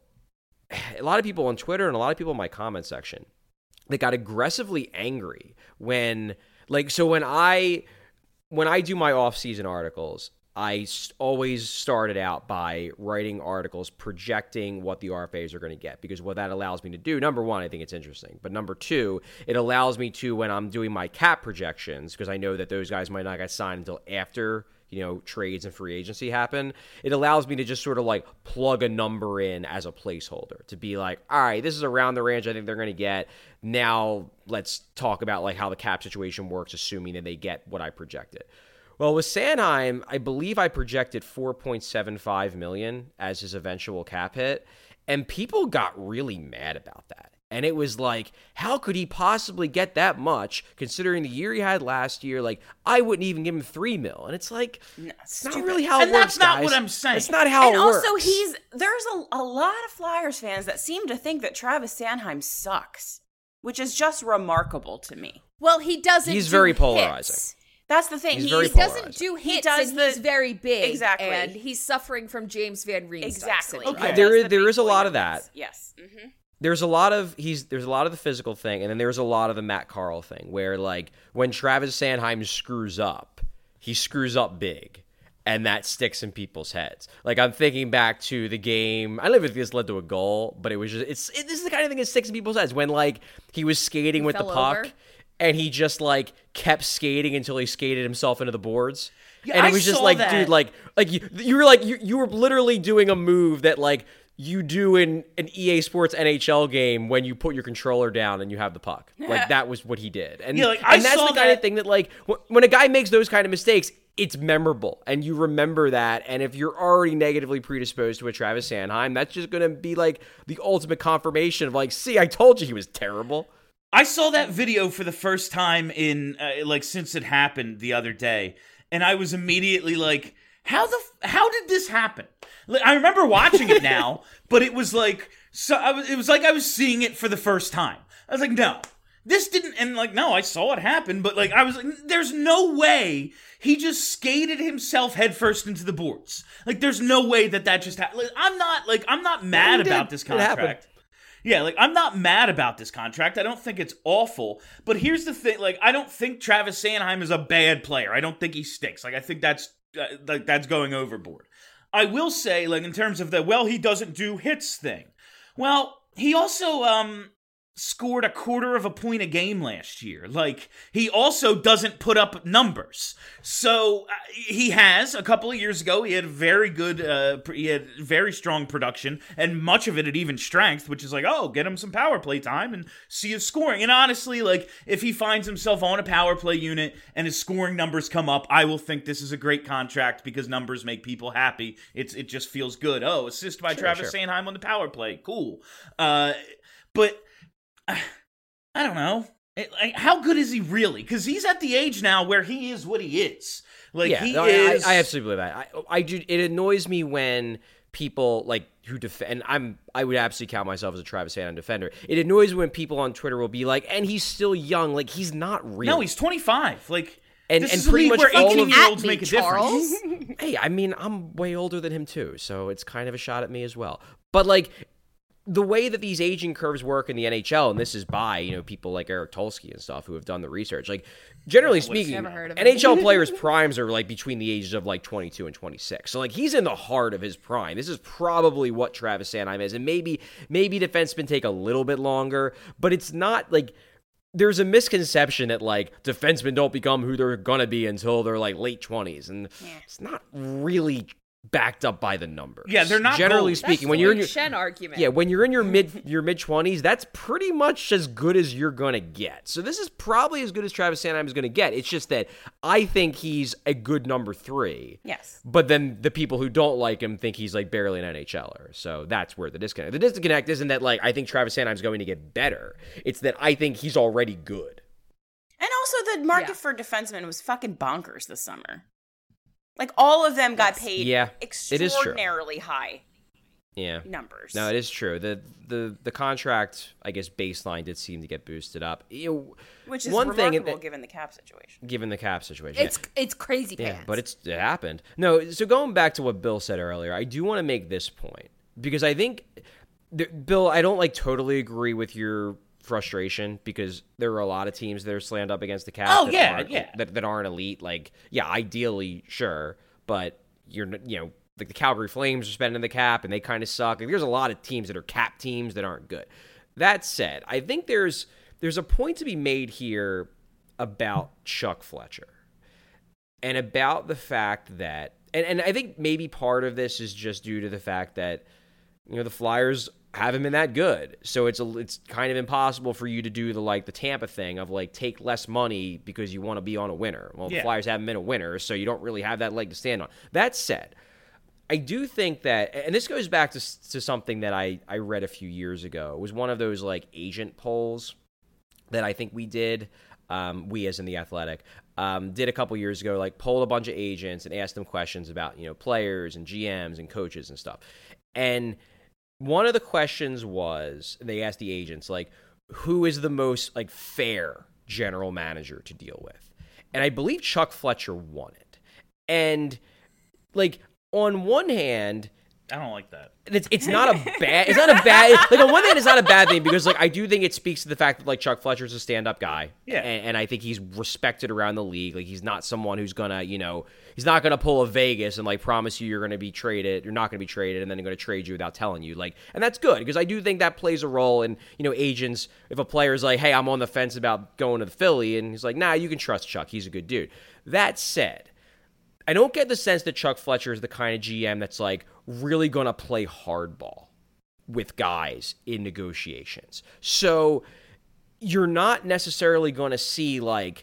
on Twitter and a lot of people in my comment section that got aggressively angry when I do my off-season articles, I always started out by writing articles projecting what the RFAs are going to get, because what that allows me to do, number one, I think it's interesting, but number two, it allows me to, when I'm doing my cap projections, because I know that those guys might not get signed until after, trades and free agency happen, it allows me to just sort of like plug a number in as a placeholder to be like, all right, this is around the range I think they're going to get. Now let's talk about like how the cap situation works, assuming that they get what I projected. Well, with Sanheim, I believe I projected $4.75 million as his eventual cap hit, and people got really mad about that. And it was like, how could he possibly get that much, considering the year he had last year? Like, I wouldn't even give him $3 million. And it's like, it's not really how it works, that's not guys. what I'm saying. It's not how it works. And also, there's a lot of Flyers fans that seem to think that Travis Sanheim sucks, which is just remarkable to me. Well, he doesn't. He's do very hits. polarizing. That's the thing. He's very He polarizing. doesn't do hits, does and he's very big. Exactly. And he's suffering from James Van Riemsdyk Exactly. syndrome. Okay. There is a lot of that. Yes. Mm-hmm. There's a lot of the physical thing, and then there's a lot of the Matt Carl thing, where like when Travis Sanheim screws up, he screws up big. and that sticks in people's heads. Like, I'm thinking back to the game. I don't know if this led to a goal, but it was just this is the kind of thing that sticks in people's heads when like he was skating with the puck over. and he just like kept skating until he skated himself into the boards. Yeah, and it I was just saw like, that. dude, like you were like you were literally doing a move that like you do in an EA Sports NHL game when you put your controller down and you have the puck. Like, that was what he did. And, Yeah, like, I and that's saw the kind that- of thing that, like, when a guy makes those kind of mistakes, it's memorable, and you remember that. And if you're already negatively predisposed to a Travis Sanheim, that's just going to be, like, the ultimate confirmation of, like, see, I told you he was terrible. I saw that video for the first time in like since it happened the other day, and I was immediately like, how did this happen? Like, I remember watching it now, but it was like it was like I was seeing it for the first time. I was like, no, this didn't, and like, no, I saw it happen, but like I was like, there's no way he just skated himself headfirst into the boards. Like, there's no way that just happened. Like, I'm not mad about this It happened. contract. Yeah, like, I'm not mad about this contract. I don't think it's awful. But here's the thing. Like, I don't think Travis Sanheim is a bad player. I don't think he stinks. Like, I think that's going overboard. I will say, like, in terms of he doesn't do hits thing. Well, he also scored a quarter of a point a game last year. Like, he also doesn't put up numbers. So he has a couple of years ago. He had very good. He had very strong production, and much of it at even strength, which is like, oh, get him some power play time and see his scoring. And honestly, like, if he finds himself on a power play unit and his scoring numbers come up, I will think this is a great contract because numbers make people happy. It just feels good. Oh, assist by Travis Sanheim on the power play, cool. But I don't know. How good is he really? Because he's at the age now where he is what he is. Like, yeah, he no, is. I absolutely believe that. I do. It annoys me when people like who defend. I would absolutely count myself as a Travis Sanheim defender. It annoys me when people on Twitter will be like, "And he's still young." Like, he's not really. No, he's 25. Like, And this and is a pretty league much where all of 18-year-olds me, make a Charles. difference. Hey, I mean, I'm way older than him too, so it's kind of a shot at me as well. But like, the way that these aging curves work in the NHL, and this is by people like Eric Tulsky and stuff who have done the research. Like, generally speaking, Never heard of him. NHL players' primes are like between the ages of like 22 and 26. So like, he's in the heart of his prime. This is probably what Travis Sanheim is, and maybe defensemen take a little bit longer, but it's not like. There's a misconception that like defensemen don't become who they're gonna be until they're like late 20s, and it's not really backed up by the numbers. Yeah, they're not generally gold. speaking. That's When the you're in Luke your Shen argument. yeah, when you're in your mid 20s, that's pretty much as good as you're gonna get. So this is probably as good as Travis Sanheim is gonna get. It's just that I think he's a good number 3. Yes. But then the people who don't like him think he's like barely an NHLer. So that's where the disconnect. The disconnect isn't that like I think Travis Sanheim's going to get better. It's that I think he's already good. And also, the market for defensemen was fucking bonkers this summer. Like, all of them got paid Yeah, it is true. extraordinarily high Yeah. numbers. No, it is true. The contract, I guess, baseline did seem to get boosted up. Which is one remarkable thing given the cap situation. given the cap situation. It's crazy Yeah, pants. but it happened. No, so going back to what Bill said earlier, I do want to make this point because I think, Bill, I don't like totally agree with your frustration because there are a lot of teams that are slammed up against the cap. Oh, that yeah, aren't, yeah. that aren't elite. Like, yeah, ideally, sure, but like the Calgary Flames are spending the cap and they kind of suck. Like, there's a lot of teams that are cap teams that aren't good. That said, I think there's a point to be made here about Chuck Fletcher and about the fact that, and I think maybe part of this is just due to the fact that, the Flyers haven't been that good. So it's kind of impossible for you to do the Tampa thing of like take less money because you want to be on a winner. Well, the Flyers haven't been a winner, so you don't really have that leg to stand on. That said, I do think that, and this goes back to something that I read a few years ago. It was one of those like agent polls that I think we did. We as in The Athletic did a couple years ago, like polled a bunch of agents and asked them questions about players and GMs and coaches and stuff. And one of the questions was, they asked the agents, like, who is the most, like, fair general manager to deal with? And I believe Chuck Fletcher won it. And, like, on one hand, I don't like that. It's not a bad like on one hand it's not a bad thing because like I do think it speaks to the fact that like Chuck Fletcher's a stand-up guy. Yeah. And I think he's respected around the league. Like he's not someone who's gonna, he's not gonna pull a Vegas and like promise you're gonna be traded, you're not gonna be traded, and then they're gonna trade you without telling you. Like, and that's good because I do think that plays a role in, agents, if a player's like, hey, I'm on the fence about going to the Philly, and he's like, nah, you can trust Chuck, he's a good dude. That said, I don't get the sense that Chuck Fletcher is the kind of GM that's like really going to play hardball with guys in negotiations. So you're not necessarily going to see like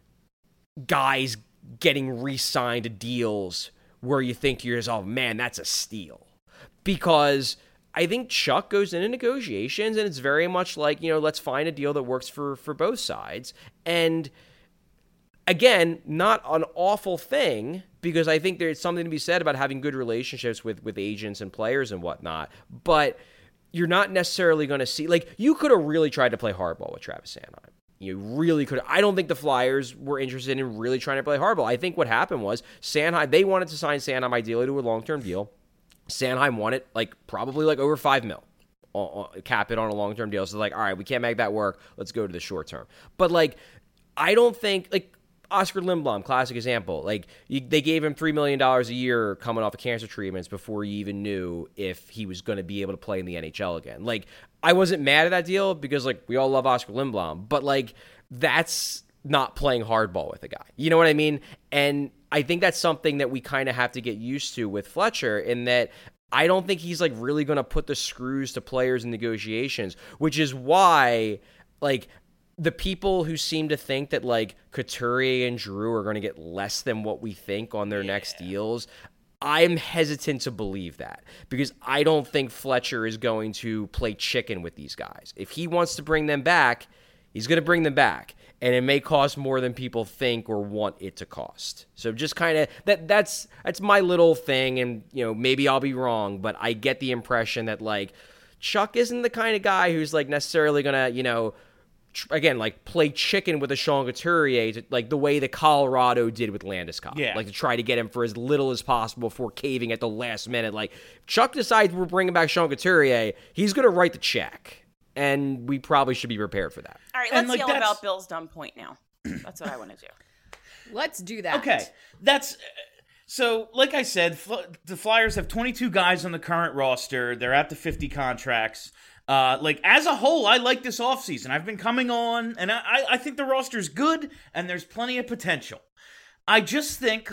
guys getting re-signed to deals where you think to yourself, oh man, that's a steal. Because I think Chuck goes into negotiations and it's very much like, let's find a deal that works for both sides. And again, not an awful thing, because I think there's something to be said about having good relationships with agents and players and whatnot, but you're not necessarily going to see, like, you could have really tried to play hardball with Travis Sanheim. You really could. I don't think the Flyers were interested in really trying to play hardball. I think what happened was Sanheim, they wanted to sign Sanheim ideally to a long-term deal. Sanheim wanted, probably over $5 million. Cap it on a long-term deal. So, all right, we can't make that work. Let's go to the short term. But, I don't think, Oscar Lindblom, classic example. They gave him $3 million a year coming off of cancer treatments before you even knew if he was going to be able to play in the NHL again. I wasn't mad at that deal because, we all love Oscar Lindblom. But, that's not playing hardball with a guy. You know what I mean? And I think that's something that we kind of have to get used to with Fletcher, in that I don't think he's, really going to put the screws to players in negotiations, which is why, the people who seem to think that Couturier and Drew are going to get less than what we think on their next deals, I'm hesitant to believe that, because I don't think Fletcher is going to play chicken with these guys. If he wants to bring them back, he's going to bring them back, and it may cost more than people think or want it to cost. So just kind of that's my little thing, and maybe I'll be wrong, but I get the impression that Chuck isn't the kind of guy who's necessarily going to again, play chicken with a Sean Couturier, the way that Colorado did with Landeskog. Yeah. To try to get him for as little as possible before caving at the last minute. Chuck decides we're bringing back Sean Couturier, he's going to write the check. And we probably should be prepared for that. All right, let's yell about Bill's dumb point now. That's what I want to do. Let's do that. Okay, that's... So, like I said, the Flyers have 22 guys on the current roster. They're at the 50 contracts. As a whole, I like this offseason. I've been coming on, and I think the roster's good, and there's plenty of potential. I just think,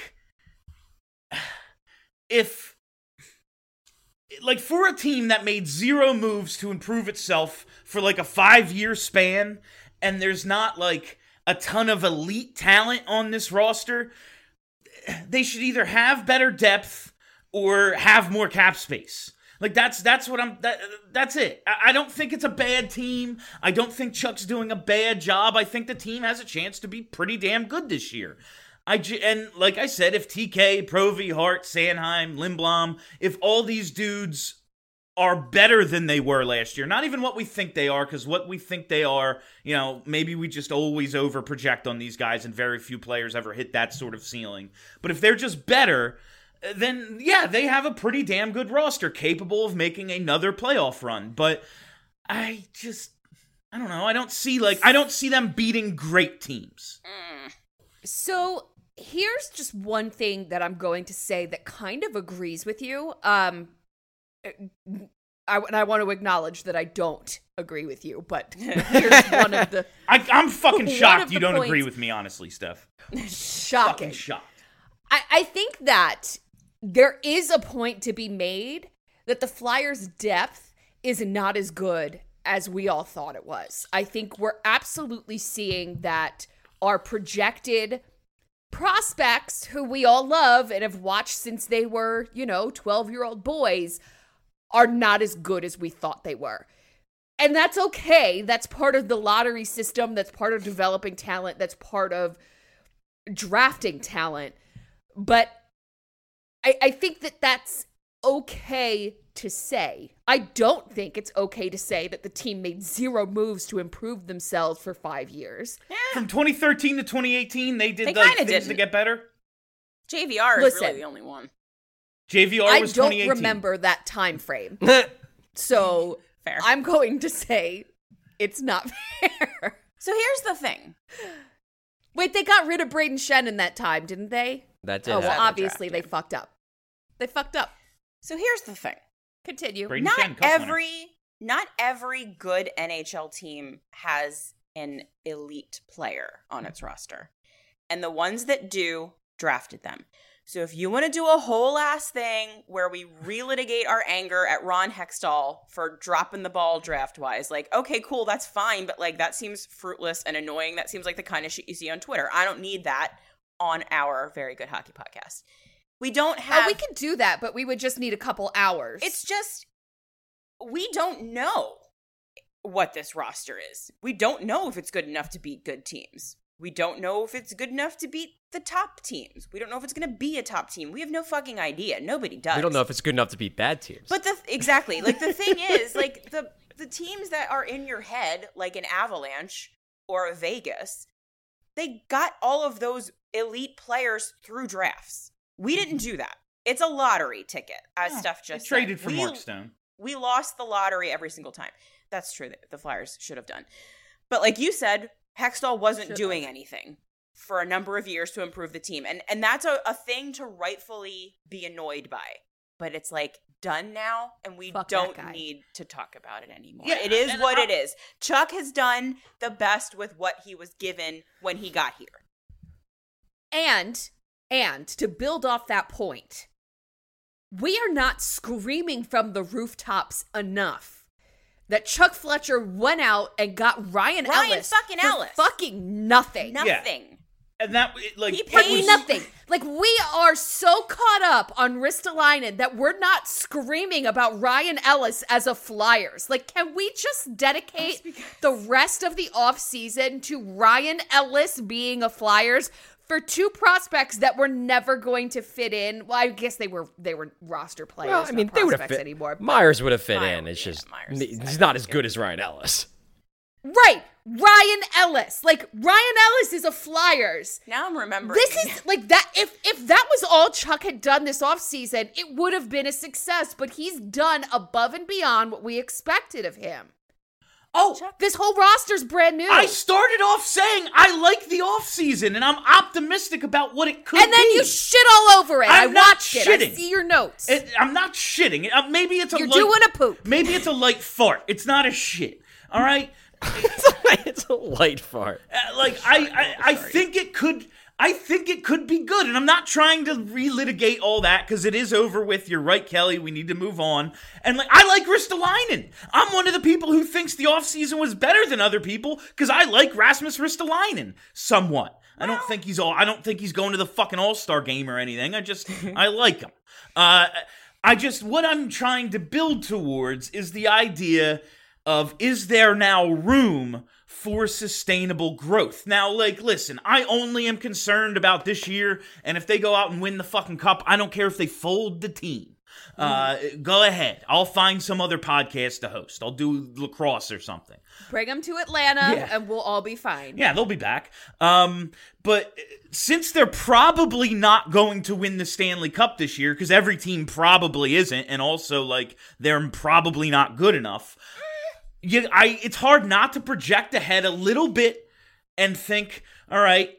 if... for a team that made zero moves to improve itself for, a 5-year span, and there's not, a ton of elite talent on this roster, they should either have better depth or have more cap space. That's what that's it. I don't think it's a bad team. I don't think Chuck's doing a bad job. I think the team has a chance to be pretty damn good this year. And like I said, if TK, Provy, Hart, Sanheim, Lindblom, if all these dudes are better than they were last year, not even what we think they are, because what we think they are, maybe we just always over-project on these guys and very few players ever hit that sort of ceiling. But if they're just better, then yeah, they have a pretty damn good roster capable of making another playoff run. But I don't know. I don't see them beating great teams. So here's just one thing that I'm going to say that kind of agrees with you. I want to acknowledge that I don't agree with you, but here's one of the... I'm fucking shocked you don't agree with me, honestly, Steph. Shocking. Fucking shocked. I think that there is a point to be made that the Flyers' depth is not as good as we all thought it was. I think we're absolutely seeing that our projected prospects, who we all love and have watched since they were, 12-year-old boys, are not as good as we thought they were. And that's okay. That's part of the lottery system. That's part of developing talent. That's part of drafting talent. But I think that that's okay to say. I don't think it's okay to say that the team made zero moves to improve themselves for 5 years. Yeah. From 2013 to 2018, they did They things kinda didn't. to get better. JVR is really the only one. JVR was 2018. I don't remember that time frame. So Fair. I'm going to say it's not fair. So here's the thing. Wait, they got rid of Braden Shen in that time, didn't they? That did Oh, well, happen. obviously they fucked up. They fucked up. So here's the thing. Continue. Braden Shen, Cup winner. Not every good NHL team has an elite player on its roster. And the ones that do drafted them. So if you want to do a whole ass thing where we relitigate our anger at Ron Hextall for dropping the ball draft-wise, like, okay, cool, that's fine, but like that seems fruitless and annoying. That seems like the kind of shit you see on Twitter. I don't need that on our Very Good Hockey podcast. We don't have... Oh, we could do that, but we would just need a couple hours. It's just, we don't know what this roster is. We don't know if it's good enough to beat good teams. We don't know if it's good enough to beat the top teams. We don't know if it's going to be a top team. We have no fucking idea. Nobody does. We don't know if it's good enough to beat bad teams. But exactly. Like, the thing is, like, the teams that are in your head, like an Avalanche or a Vegas, they got all of those elite players through drafts. We didn't do that. It's a lottery ticket, as Steph just said. Traded for Mark Stone. We lost the lottery every single time. That's true that the Flyers should have done. But like you said, Hextall wasn't doing anything for a number of years to improve the team. And that's a thing to rightfully be annoyed by. But it's like done now, and we don't need to talk about it anymore. Yeah, it is what it is. Chuck has done the best with what he was given when he got here. And to build off that point, we are not screaming from the rooftops enough that Chuck Fletcher went out and got Ryan Ellis fucking for Ellis. fucking nothing. Nothing. And that, like, He it paid was- Nothing. Like, we are so caught up on Ristolainen that we're not screaming about Ryan Ellis as a Flyers. Like, can we just dedicate the rest of the offseason to Ryan Ellis being a Flyers for two prospects that were never going to fit in? Well, I guess they were roster players. Well, I mean, not they would have prospects fit anymore. Myers would have fit Myers, in. It's yeah, just Myers is he's not as good as Ryan Ellis. Right. Ryan Ellis. Like, Ryan Ellis is a Flyers. Now I'm remembering. This is like that. If that was all Chuck had done this offseason, it would have been a success. But he's done above and beyond what we expected of him. Oh, This whole roster's brand new. I started off saying I like the offseason, and I'm optimistic about what it could be. and then you shit all over it. I I'm not watched it. I shitting. see your notes. I'm not shitting. Maybe it's a You're light, doing a poop. Maybe it's a light fart. It's not a shit. All right? It's a light fart. I think it could. I think it could be good, and I'm not trying to relitigate all that because it is over with. You're right, Kelly. We need to move on. And I like Ristolainen. I'm one of the people who thinks the offseason was better than other people because I like Rasmus Ristolainen somewhat. I don't think he's going to the fucking All-Star game or anything. I like him. What I'm trying to build towards is the idea of, is there now room for sustainable growth? Now, listen, I only am concerned about this year, and if they go out and win the fucking cup, I don't care if they fold the team. Go ahead. I'll find some other podcast to host. I'll do lacrosse or something. Bring them to Atlanta, and we'll all be fine. Yeah, they'll be back. But since they're probably not going to win the Stanley Cup this year, because every team probably isn't, and also, they're probably not good enough, it's hard not to project ahead a little bit and think, all right,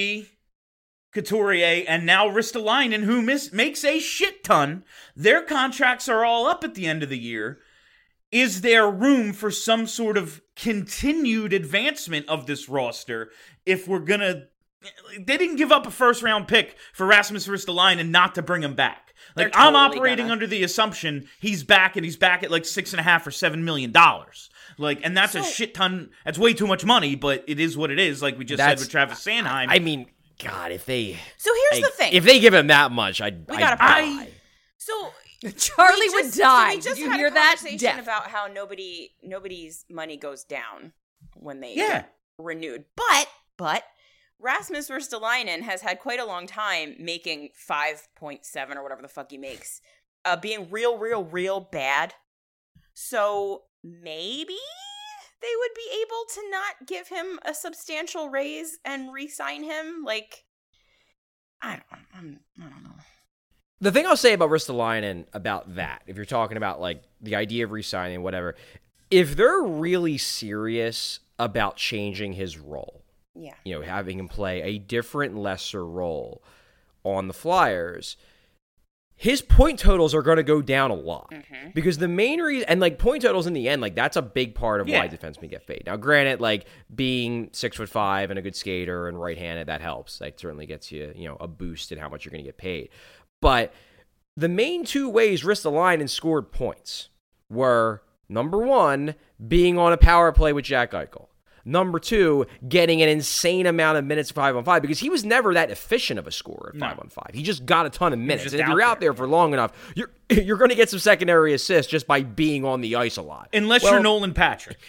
Couturier, and now Ristolainen, who makes a shit ton. Their contracts are all up at the end of the year. Is there room for some sort of continued advancement of this roster if we're going to... They didn't give up a first-round pick for Rasmus Ristolainen not to bring him back. I'm totally operating under the assumption he's back, and he's back at $6.5 or $7 million. And that's a shit ton. That's way too much money, but it is what it is. Like we just said with Travis Sanheim. I mean, God, if they... So here's the thing. If they give him that much, We gotta die. So Charlie would die. So we just Did you had hear a that? conversation Death. about how nobody's money goes down when they Yeah. get renewed. But Rasmus Ristolainen has had quite a long time making 5.7 or whatever the fuck he makes, being real bad. So maybe they would be able to not give him a substantial raise and re-sign him. I don't know. The thing I'll say about Ristolainen about that, if you're talking about like the idea of re-signing, whatever, if they're really serious about changing his role, having him play a different, lesser role on the Flyers, his point totals are going to go down a lot. Because the main reason, and like point totals in the end, like that's a big part of why defensemen get paid. Now, granted, like being 6'5" and a good skater and right-handed, that helps. That certainly gets you, a boost in how much you're going to get paid. But the main two ways Ristolainen scored points were, number one, being on a power play with Jack Eichel. Number two, getting an insane amount of minutes 5-on-5, because he was never that efficient of a scorer at 5-on-5. He just got a ton of minutes. And if you're out there for long enough, you're going to get some secondary assists just by being on the ice a lot. Unless you're Nolan Patrick.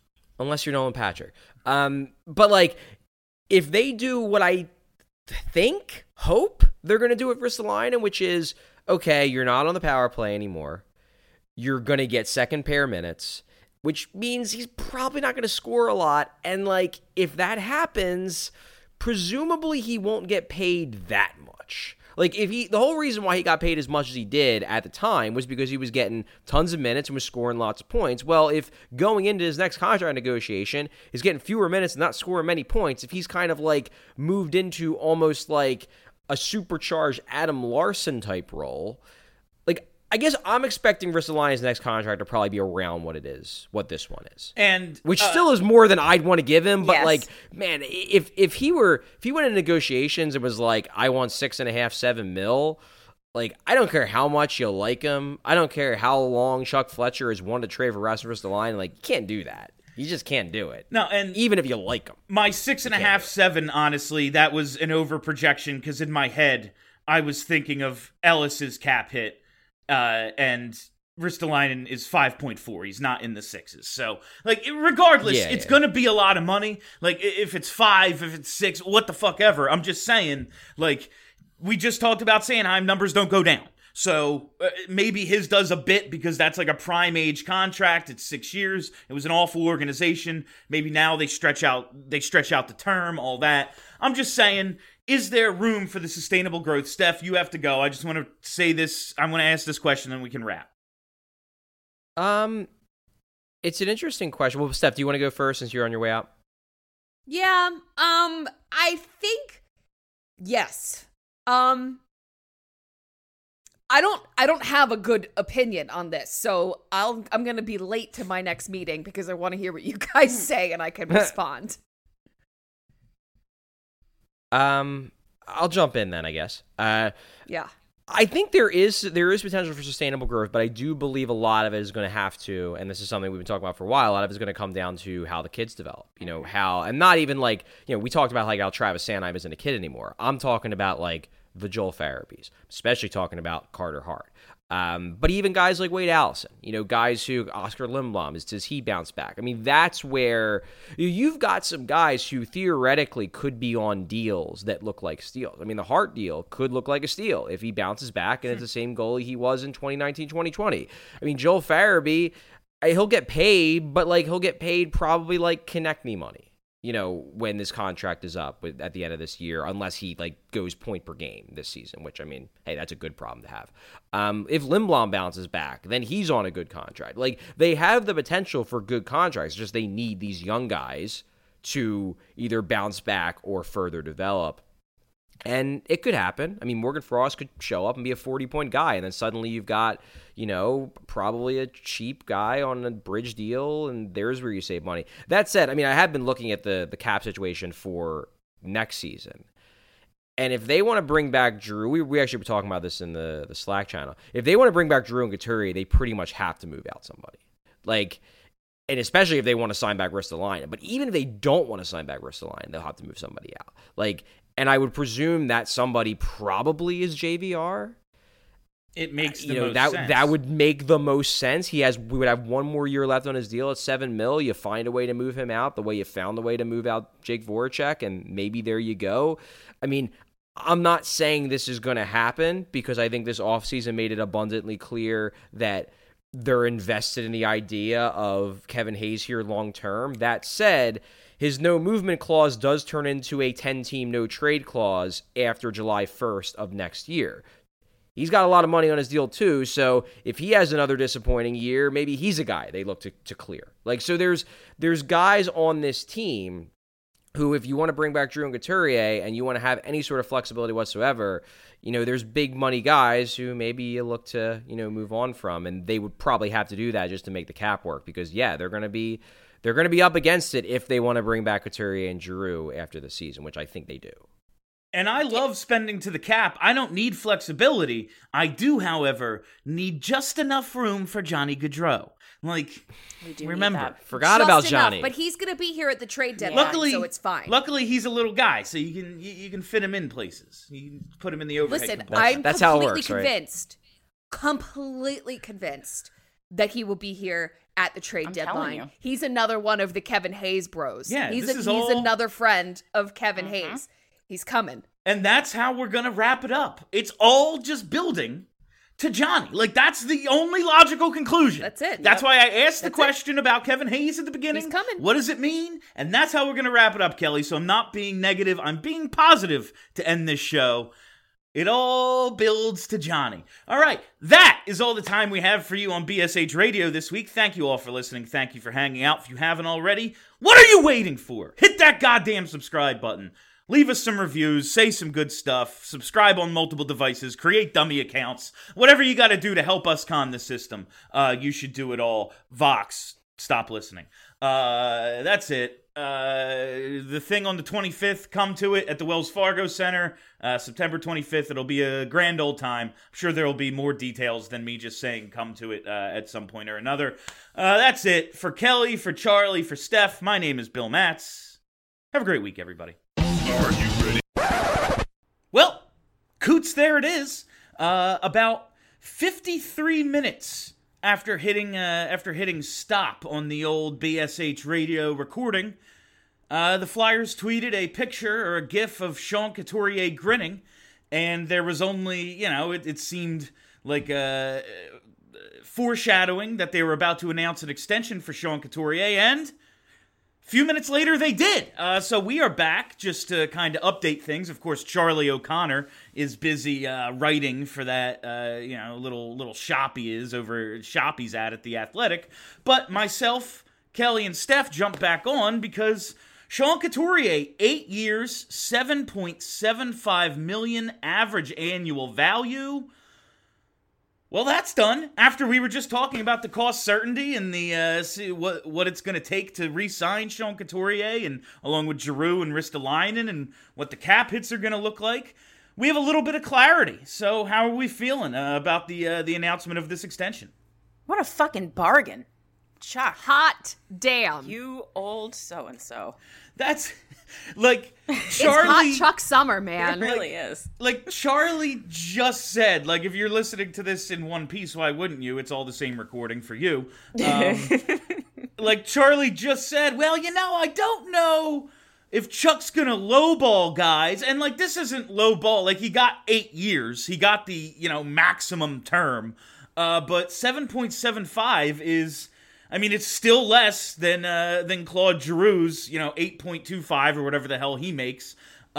But like, if they do what I hope they're going to do with Ristolainen, which is, okay, you're not on the power play anymore. You're going to get second pair minutes, which means he's probably not going to score a lot. And like, if that happens, presumably he won't get paid that much. Like, the whole reason why he got paid as much as he did at the time was because he was getting tons of minutes and was scoring lots of points. Well, if going into his next contract negotiation, he's getting fewer minutes and not scoring many points, if he's kind of like moved into almost like a supercharged Adam Larson type role, like, I guess I'm expecting Ristolainen's next contract to probably be around what what this one is, and which still is more than I'd want to give him. But like, man, if he went into negotiations, it was like, I want 6.5, 7 mil. Like, I don't care how much you like him. I don't care how long Chuck Fletcher has wanted to trade for Rasmus Ristolainen. Like, you can't do that. You just can't do it. No, and even if you like him, my 6.5, 7. Honestly, that was an over projection because in my head I was thinking of Ellis's cap hit. And Ristolainen is 5.4. He's not in the 6s. So, like, regardless, it's going to be a lot of money. Like, if it's 5, if it's 6, what the fuck ever. I'm just saying, like, we just talked about Sanheim, numbers don't go down. So, maybe his does a bit because that's like a prime age contract. It's 6 years. It was an awful organization. Maybe now they stretch out the term, all that. I'm just saying, is there room for the sustainable growth? Steph, you have to go. I just want to say this. I'm going to ask this question and we can wrap. It's an interesting question. Well, Steph, do you want to go first since you're on your way out? Yeah. I think yes. I don't have a good opinion on this, so I'm going to be late to my next meeting because I want to hear what you guys say and I can respond. I'll jump in then, I guess. Yeah. I think there is potential for sustainable growth, but I do believe a lot of it is going to have to, and this is something we've been talking about for a while, a lot of it is going to come down to how the kids develop. And not even like, we talked about like how Travis Sanheim isn't a kid anymore. I'm talking about like the Joel Farabees, especially talking about Carter Hart. But even guys like Wade Allison, guys who, Oscar Lindblom, does he bounce back? I mean, that's where you've got some guys who theoretically could be on deals that look like steals. I mean, the Hart deal could look like a steal if he bounces back and it's the same goalie he was in 2019, 2020. I mean, Joel Farabee, he'll get paid, but like he'll get paid probably like Konechny money. When this contract is up at the end of this year, unless he like goes point per game this season, which I mean, hey, that's a good problem to have. If Lindblom bounces back, then he's on a good contract. Like, they have the potential for good contracts, just they need these young guys to either bounce back or further develop. And it could happen. I mean, Morgan Frost could show up and be a 40-point guy, and then suddenly you've got, probably a cheap guy on a bridge deal, and there's where you save money. That said, I mean, I have been looking at the cap situation for next season. And if they want to bring back Drew, we actually were talking about this in the Slack channel. If they want to bring back Drew and Couturier, they pretty much have to move out somebody. Like, and especially if they want to sign back Ristolainen. But even if they don't want to sign back Ristolainen, they'll have to move somebody out. Like, and I would presume that somebody probably is JVR. It makes the most sense. That would make the most sense. We would have one more year left on his deal at $7 million. You find a way to move him out the way you found the way to move out Jake Voracek, and maybe there you go. I mean, I'm not saying this is going to happen because I think this offseason made it abundantly clear that they're invested in the idea of Kevin Hayes here long term. That said, his no movement clause does turn into a 10-team no trade clause after July 1st of next year. He's got a lot of money on his deal too, so if he has another disappointing year, maybe he's a guy they look to clear. Like, so there's guys on this team who, if you want to bring back Drew and Couturier and you want to have any sort of flexibility whatsoever, there's big money guys who maybe you look to, move on from, and they would probably have to do that just to make the cap work because, yeah, they're going to be up against it if they want to bring back Couturier and Giroux after the season, which I think they do. And I love spending to the cap. I don't need flexibility. I do, however, need just enough room for Johnny Gaudreau. Like, remember, forgot just about enough, Johnny. but he's going to be here at the trade deadline, so it's fine. Luckily, he's a little guy, so you can fit him in places. You can put him in the overhead. Listen, compartment. I'm completely convinced that he will be here at the trade deadline. He's another one of the Kevin Hayes bros. Yeah, he's another friend of Kevin Hayes. He's coming. And that's how we're going to wrap it up. It's all just building to Johnny. Like, that's the only logical conclusion. That's it. That's why I asked the question about Kevin Hayes at the beginning. He's coming. What does it mean? And that's how we're going to wrap it up, Kelly. So I'm not being negative. I'm being positive to end this show. It all builds to Johnny. All right, that is all the time we have for you on BSH Radio this week. Thank you all for listening. Thank you for hanging out. If you haven't already, what are you waiting for? Hit that goddamn subscribe button. Leave us some reviews, say some good stuff, subscribe on multiple devices, create dummy accounts, whatever you got to do to help us con the system. You should do it all. Vox, stop listening. That's it. The thing on the 25th, come to it at the Wells Fargo Center, September 25th. It'll be a grand old time. I'm sure there will be more details than me just saying come to it at some point or another. That's it. For Kelly, for Charlie, for Steph, my name is Bill Matz. Have a great week, everybody. Are you ready? Well, Coots, there it is. About 53 minutes after hitting stop on the old BSH Radio recording, the Flyers tweeted a picture or a gif of Sean Couturier grinning, and there was only, it seemed like foreshadowing that they were about to announce an extension for Sean Couturier, and a few minutes later, they did. So we are back just to kind of update things. Of course, Charlie O'Connor is busy writing for that, little shop he is over shop he's at The Athletic. But myself, Kelly, and Steph jumped back on because Sean Couturier, 8 years, $7.75 million average annual value. Well, that's done. After we were just talking about the cost certainty and the what it's going to take to re-sign Sean Couturier, and along with Giroux and Ristolainen, and what the cap hits are going to look like, we have a little bit of clarity. So, how are we feeling about the announcement of this extension? What a fucking bargain, Chuck! Hot damn! You old so and so. That's like It's Charlie. hot Chuck summer, man. It really is. Like Charlie just said, like if you're listening to this in one piece, why wouldn't you? It's all the same recording for you. Like Charlie just said, well, I don't know if Chuck's gonna lowball guys, and like this isn't lowball. Like he got 8 years, he got the maximum term, but 7.75 is. I mean, it's still less than Claude Giroux's, 8.25 or whatever the hell he makes.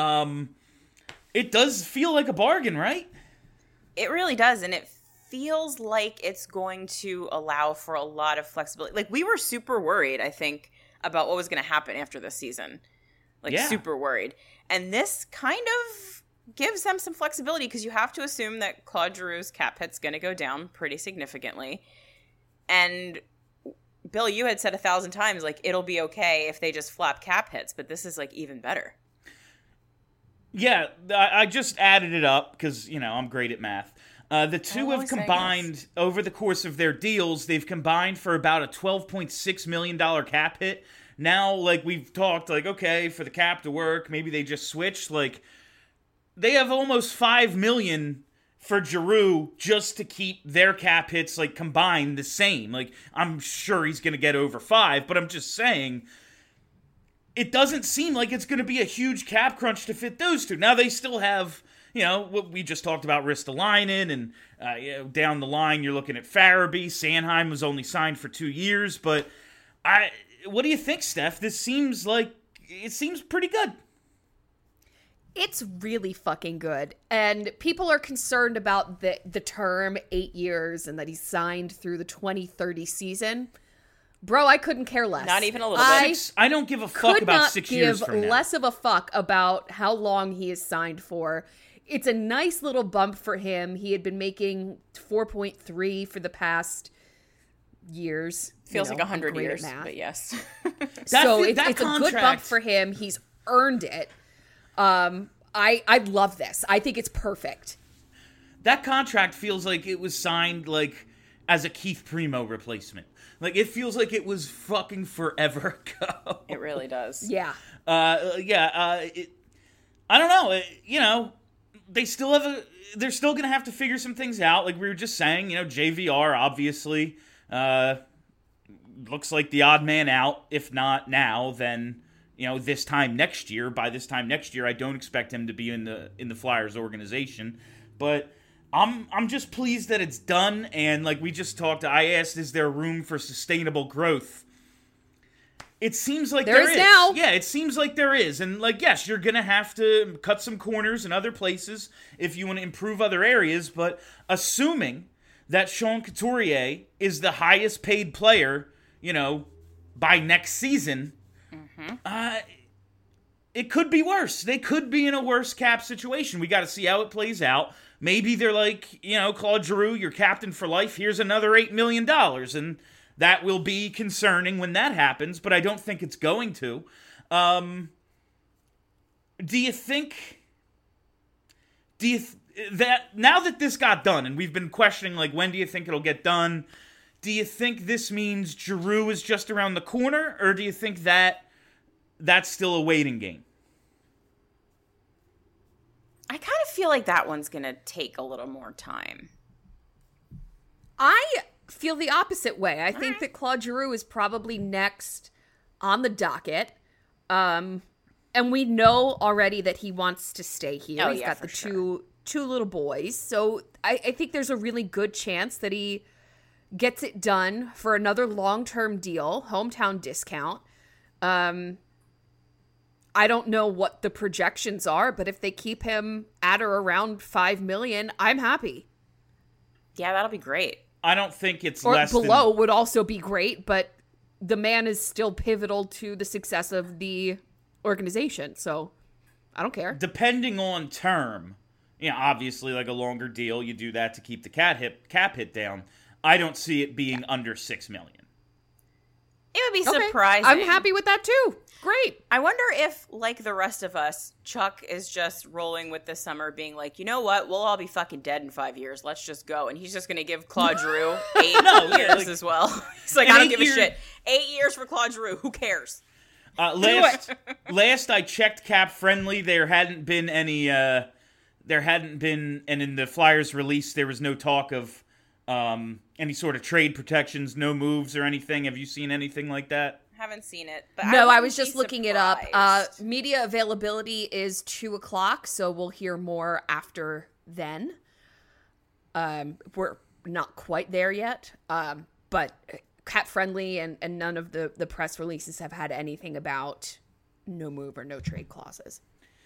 It does feel like a bargain, right? It really does, and it feels like it's going to allow for a lot of flexibility. Like, we were super worried, I think, about what was going to happen after this season. Super worried. And this kind of gives them some flexibility because you have to assume that Claude Giroux's cap hit's going to go down pretty significantly. And Bill, you had said 1,000 times, like, it'll be okay if they just flap cap hits, but this is, like, even better. Yeah, I just added it up because, I'm great at math. The two have combined, over the course of their deals, they've combined for about a $12.6 million cap hit. Now, like, we've talked, like, okay, for the cap to work, maybe they just switch. Like, they have almost $5 million for Giroux just to keep their cap hits, like, combined the same. Like, I'm sure he's going to get over 5, but I'm just saying, it doesn't seem like it's going to be a huge cap crunch to fit those two. Now, they still have, what we just talked about, Ristolainen, and down the line, you're looking at Farabee. Sanheim was only signed for 2 years, but what do you think, Steph? It seems pretty good. It's really fucking good. And people are concerned about the term 8 years and that he's signed through the 2030 season. Bro, I couldn't care less. Not even a little bit. I don't give a fuck about 6 years from now. Could not give less of a fuck about how long he is signed for. It's a nice little bump for him. He had been making 4.3 for the past years. Feels like 100 years, but yes. So it's a good bump for him. He's earned it. I love this. I think it's perfect. That contract feels like it was signed like as a Keith Primo replacement. Like it feels like it was fucking forever ago. It really does. Yeah. I don't know. They're still gonna have to figure some things out. Like we were just saying, JVR obviously looks like the odd man out. If not now, then this time next year. By this time next year, I don't expect him to be in the Flyers organization. But I'm just pleased that it's done. And like we just talked, I asked, is there room for sustainable growth? It seems like there is now. Yeah, it seems like there is. And like, yes, you're going to have to cut some corners in other places if you want to improve other areas. But assuming that Sean Couturier is the highest paid player, by next season, it could be worse. They could be in a worse cap situation. We got to see how it plays out. Maybe they're like, Claude Giroux, you're captain for life. Here's another $8 million. And that will be concerning when that happens, but I don't think it's going to. Do you think that now that this got done, and we've been questioning, like, when do you think it'll get done? Do you think this means Giroux is just around the corner, or do you think that's still a waiting game? I kind of feel like that one's going to take a little more time. I feel the opposite way. I think that Claude Giroux is probably next on the docket. And we know already that he wants to stay here. He's got the two little boys. So I think there's a really good chance that he gets it done for another long-term deal, hometown discount. I don't know what the projections are, but if they keep him at or around $5 million, I'm happy. Yeah, that'll be great. I don't think it's or less below than... would also be great, but the man is still pivotal to the success of the organization, so I don't care. Depending on term, obviously like a longer deal, you do that to keep the cap hit down. I don't see it being under $6 million. It would be surprising. I'm happy with that too. Great. I wonder if, like the rest of us, Chuck is just rolling with this summer being like, you know what? We'll all be fucking dead in 5 years. Let's just go. And he's just going to give Claude Giroux 8 years as well. He's like, I don't give a shit. 8 years for Claude Giroux. Who cares? Last I checked Cap Friendly, there hadn't been, and in the Flyers release, there was no talk of any sort of trade protections, no moves or anything. Have you seen anything like that? Haven't seen it. But no, I was just looking it up. Media availability is 2:00, so we'll hear more after then. We're not quite there yet, but Cap Friendly and none of the press releases have had anything about no move or no trade clauses.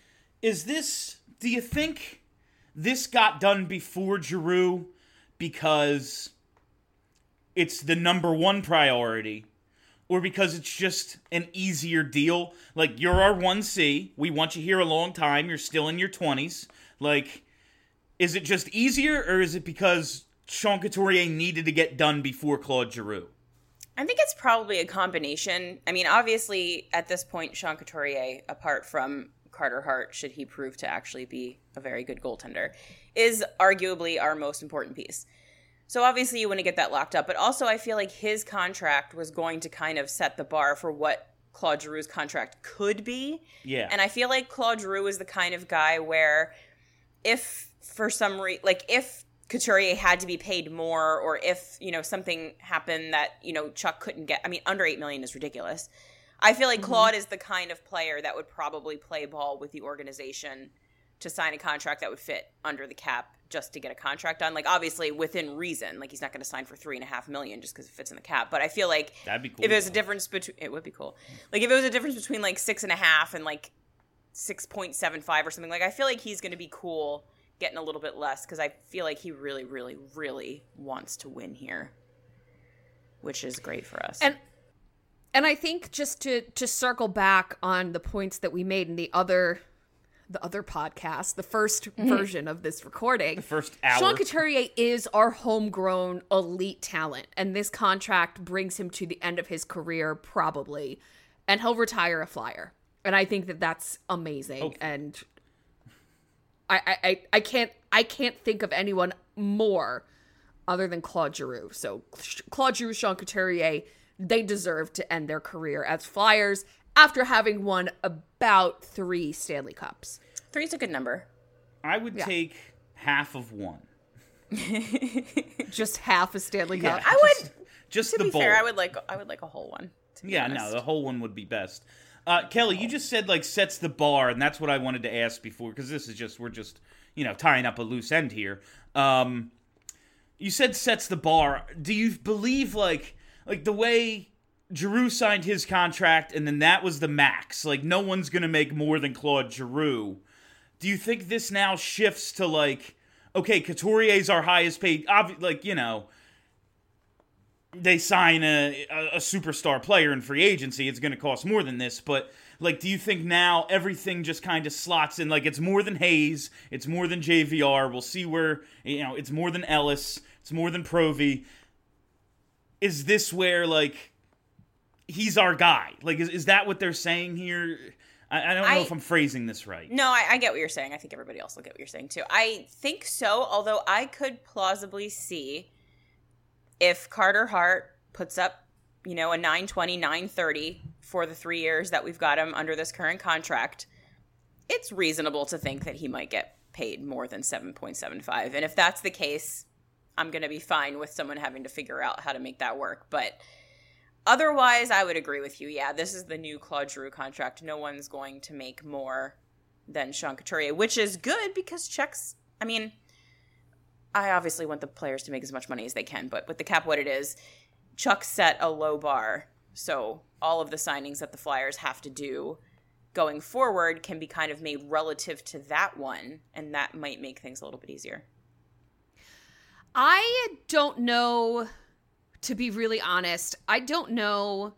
Do you think this got done before Giroux because it's the number one priority? Or because it's just an easier deal? Like, you're our 1C. We want you here a long time. You're still in your 20s. Like, is it just easier? Or is it because Sean Couturier needed to get done before Claude Giroux? I think it's probably a combination. I mean, obviously, at this point, Sean Couturier, apart from Carter Hart, should he prove to actually be a very good goaltender, is arguably our most important piece. So obviously you want to get that locked up, but also I feel like his contract was going to kind of set the bar for what Claude Giroux's contract could be. Yeah. And I feel like Claude Giroux is the kind of guy where if for some reason, like if Couturier had to be paid more or if, something happened that, Chuck couldn't get, under $8 million is ridiculous. I feel like Claude is the kind of player that would probably play ball with the organization to sign a contract that would fit under the cap just to get a contract done. Like, obviously, within reason. Like, he's not going to sign for $3.5 million just because it fits in the cap. But I feel like that'd be cool. If there's a difference between... It would be cool. Like, if it was a difference between, like, 6.5 and, like, 6.75 or something. Like, I feel like he's going to be cool getting a little bit less because I feel like he really, really, really wants to win here, which is great for us. And I think just to circle back on the points that we made in the other podcast, the first version of this recording, The first hour. Sean Couturier is our homegrown elite talent, and this contract brings him to the end of his career probably, and he'll retire a Flyer. And I think that that's amazing. Okay. And I can't think of anyone more other than Claude Giroux. So Claude Giroux, Sean Couturier, they deserve to end their career as Flyers after having won about 3 Stanley Cups. 3's a good number. I would take half of one. Just half a Stanley Cup. I would. Just To the be bowl. fair, I would like a whole one. To be Yeah, honest. no, the whole one would be best. Kelly, you just said like sets the bar, and that's what I wanted to ask before because this is we're just tying up a loose end here. You said sets the bar. Do you believe like the way Giroux signed his contract and then that was the max? Like no one's gonna make more than Claude Giroux. Do you think this now shifts to like, okay, Couturier's our highest paid? They sign a superstar player in free agency, it's going to cost more than this. But, like, do you think now everything just kind of slots in? Like, it's more than Hayes. It's more than JVR. We'll see where, it's more than Ellis. It's more than Provy. Is this where, like, he's our guy? Like, is that what they're saying here? I don't know if I'm phrasing this right. No, I get what you're saying. I think everybody else will get what you're saying, too. I think so, although I could plausibly see if Carter Hart puts up, a 920, 930 for the 3 years that we've got him under this current contract, it's reasonable to think that he might get paid more than 7.75. And if that's the case, I'm going to be fine with someone having to figure out how to make that work. But otherwise, I would agree with you. Yeah, this is the new Claude Giroux contract. No one's going to make more than Sean Couturier, which is good because checks, I obviously want the players to make as much money as they can, but with the cap what it is, Chuck set a low bar. So all of the signings that the Flyers have to do going forward can be kind of made relative to that one, and that might make things a little bit easier. I don't know, to be really honest, I don't know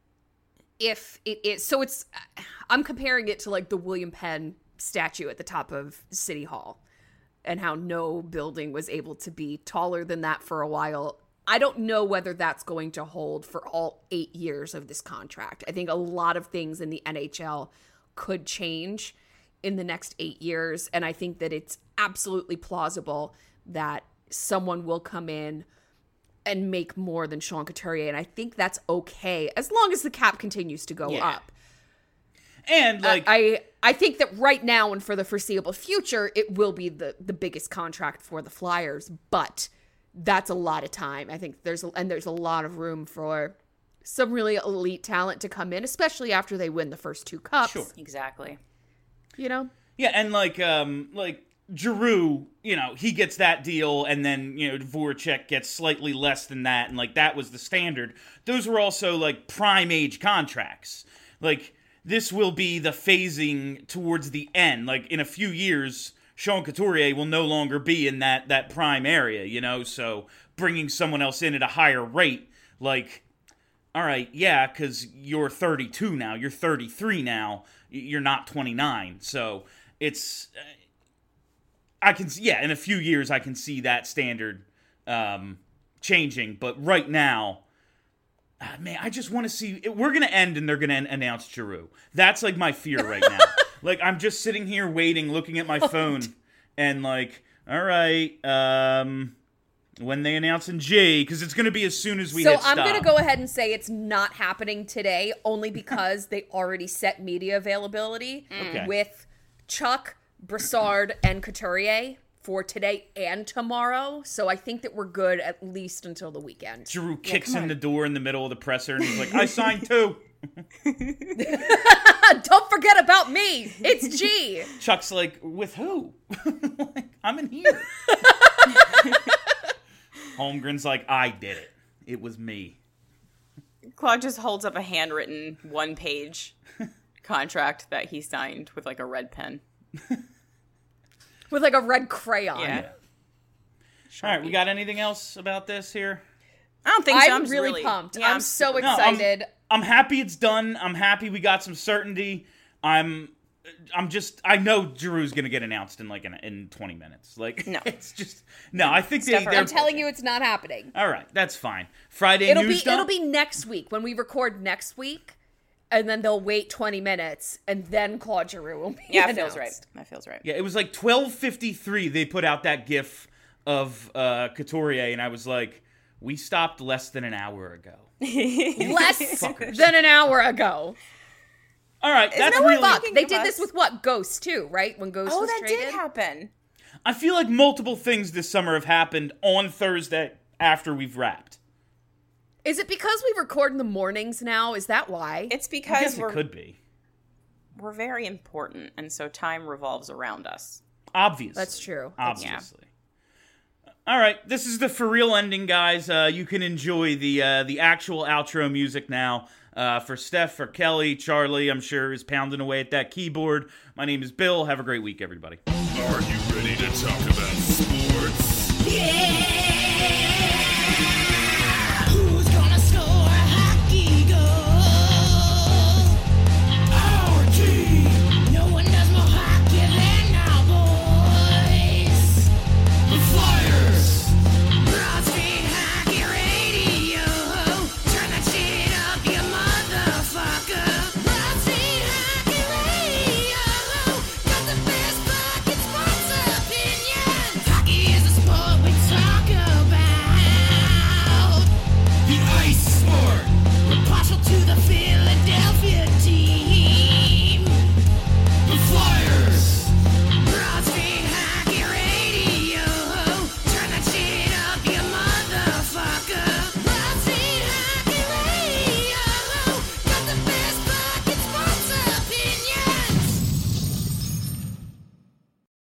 if it is. So I'm comparing it to like the William Penn statue at the top of City Hall, and how no building was able to be taller than that for a while. I don't know whether that's going to hold for all 8 years of this contract. I think a lot of things in the NHL could change in the next 8 years, and I think that it's absolutely plausible that someone will come in and make more than Sean Couturier, and I think that's okay as long as the cap continues to go up. And like I think that right now and for the foreseeable future, it will be the biggest contract for the Flyers, but that's a lot of time. I think there's a lot of room for some really elite talent to come in, especially after they win the first 2 cups. Sure. Exactly. Yeah, and like Giroux, he gets that deal, and then, Voracek gets slightly less than that, and like that was the standard. Those were also like prime age contracts. Like this will be the phasing towards the end. Like, in a few years, Sean Couturier will no longer be in that prime area, so bringing someone else in at a higher rate, like, all right, yeah, because you're 32 now, you're 33 now, you're not 29, so it's, in a few years, I can see that standard changing, but right now, man, I just want to see. We're going to end and they're going to announce Giroux. That's like my fear right now. Like, I'm just sitting here waiting, looking at my phone, and like, all right, when they announce in G, because it's going to be as soon as we hit stop. So I'm going to go ahead and say it's not happening today, only because they already set media availability with Chuck, Brassard, and Couturier for today and tomorrow. So I think that we're good at least until the weekend. Giroux kicks in the door in the middle of the presser, and he's like, I signed 2. Don't forget about me. It's G. Chuck's like, with who? Like, I'm in here. Holmgren's like, I did it. It was me. Claude just holds up a handwritten 1-page contract that he signed with like a red pen. With like a red crayon. Yeah. All right, we got anything else about this here? I don't think so. I'm really pumped. Yeah, I'm so super- excited. I'm happy it's done. I'm happy we got some certainty. I know Giroux's gonna get announced in 20 minutes. Like, No. it's just no. I think Steph, they're I'm telling you, it's not happening. all right. That's fine. Friday It'll news be dump? next week when we record next week, and then they'll wait 20 minutes, and then Claude Giroux will be Yeah, that announced. feels right. That feels right. Yeah, it was like 12:53. They put out that GIF of Couturier, and I was like, we stopped less than an hour ago. Less than an hour ago. All right, that's no one really. fucking They give did us- this with what? Ghost too, right? When Ghost Oh, was that traded. did happen. I feel like multiple things this summer have happened on Thursday after we've wrapped. Is it because we record in the mornings now? Is that why? It's I because guess it could be. we're very important, and so time revolves around us. Obvious. That's true. Obviously. All right, this is the for real ending, guys. You can enjoy the actual outro music now. For Steph, for Kelly, Charlie, I'm sure is pounding away at that keyboard. My name is Bill. Have a great week, everybody. Are you ready to talk about sports? Who's gonna score a hockey goal? Our team. No one does more hockey than our boys. The Flyers. Broad Street Hockey Radio. Turn that shit up, you motherfucker. Broad Street Hockey Radio. Got the best fucking sports opinions. Hockey is a sport we talk about. The ice sport. We're partial to the field.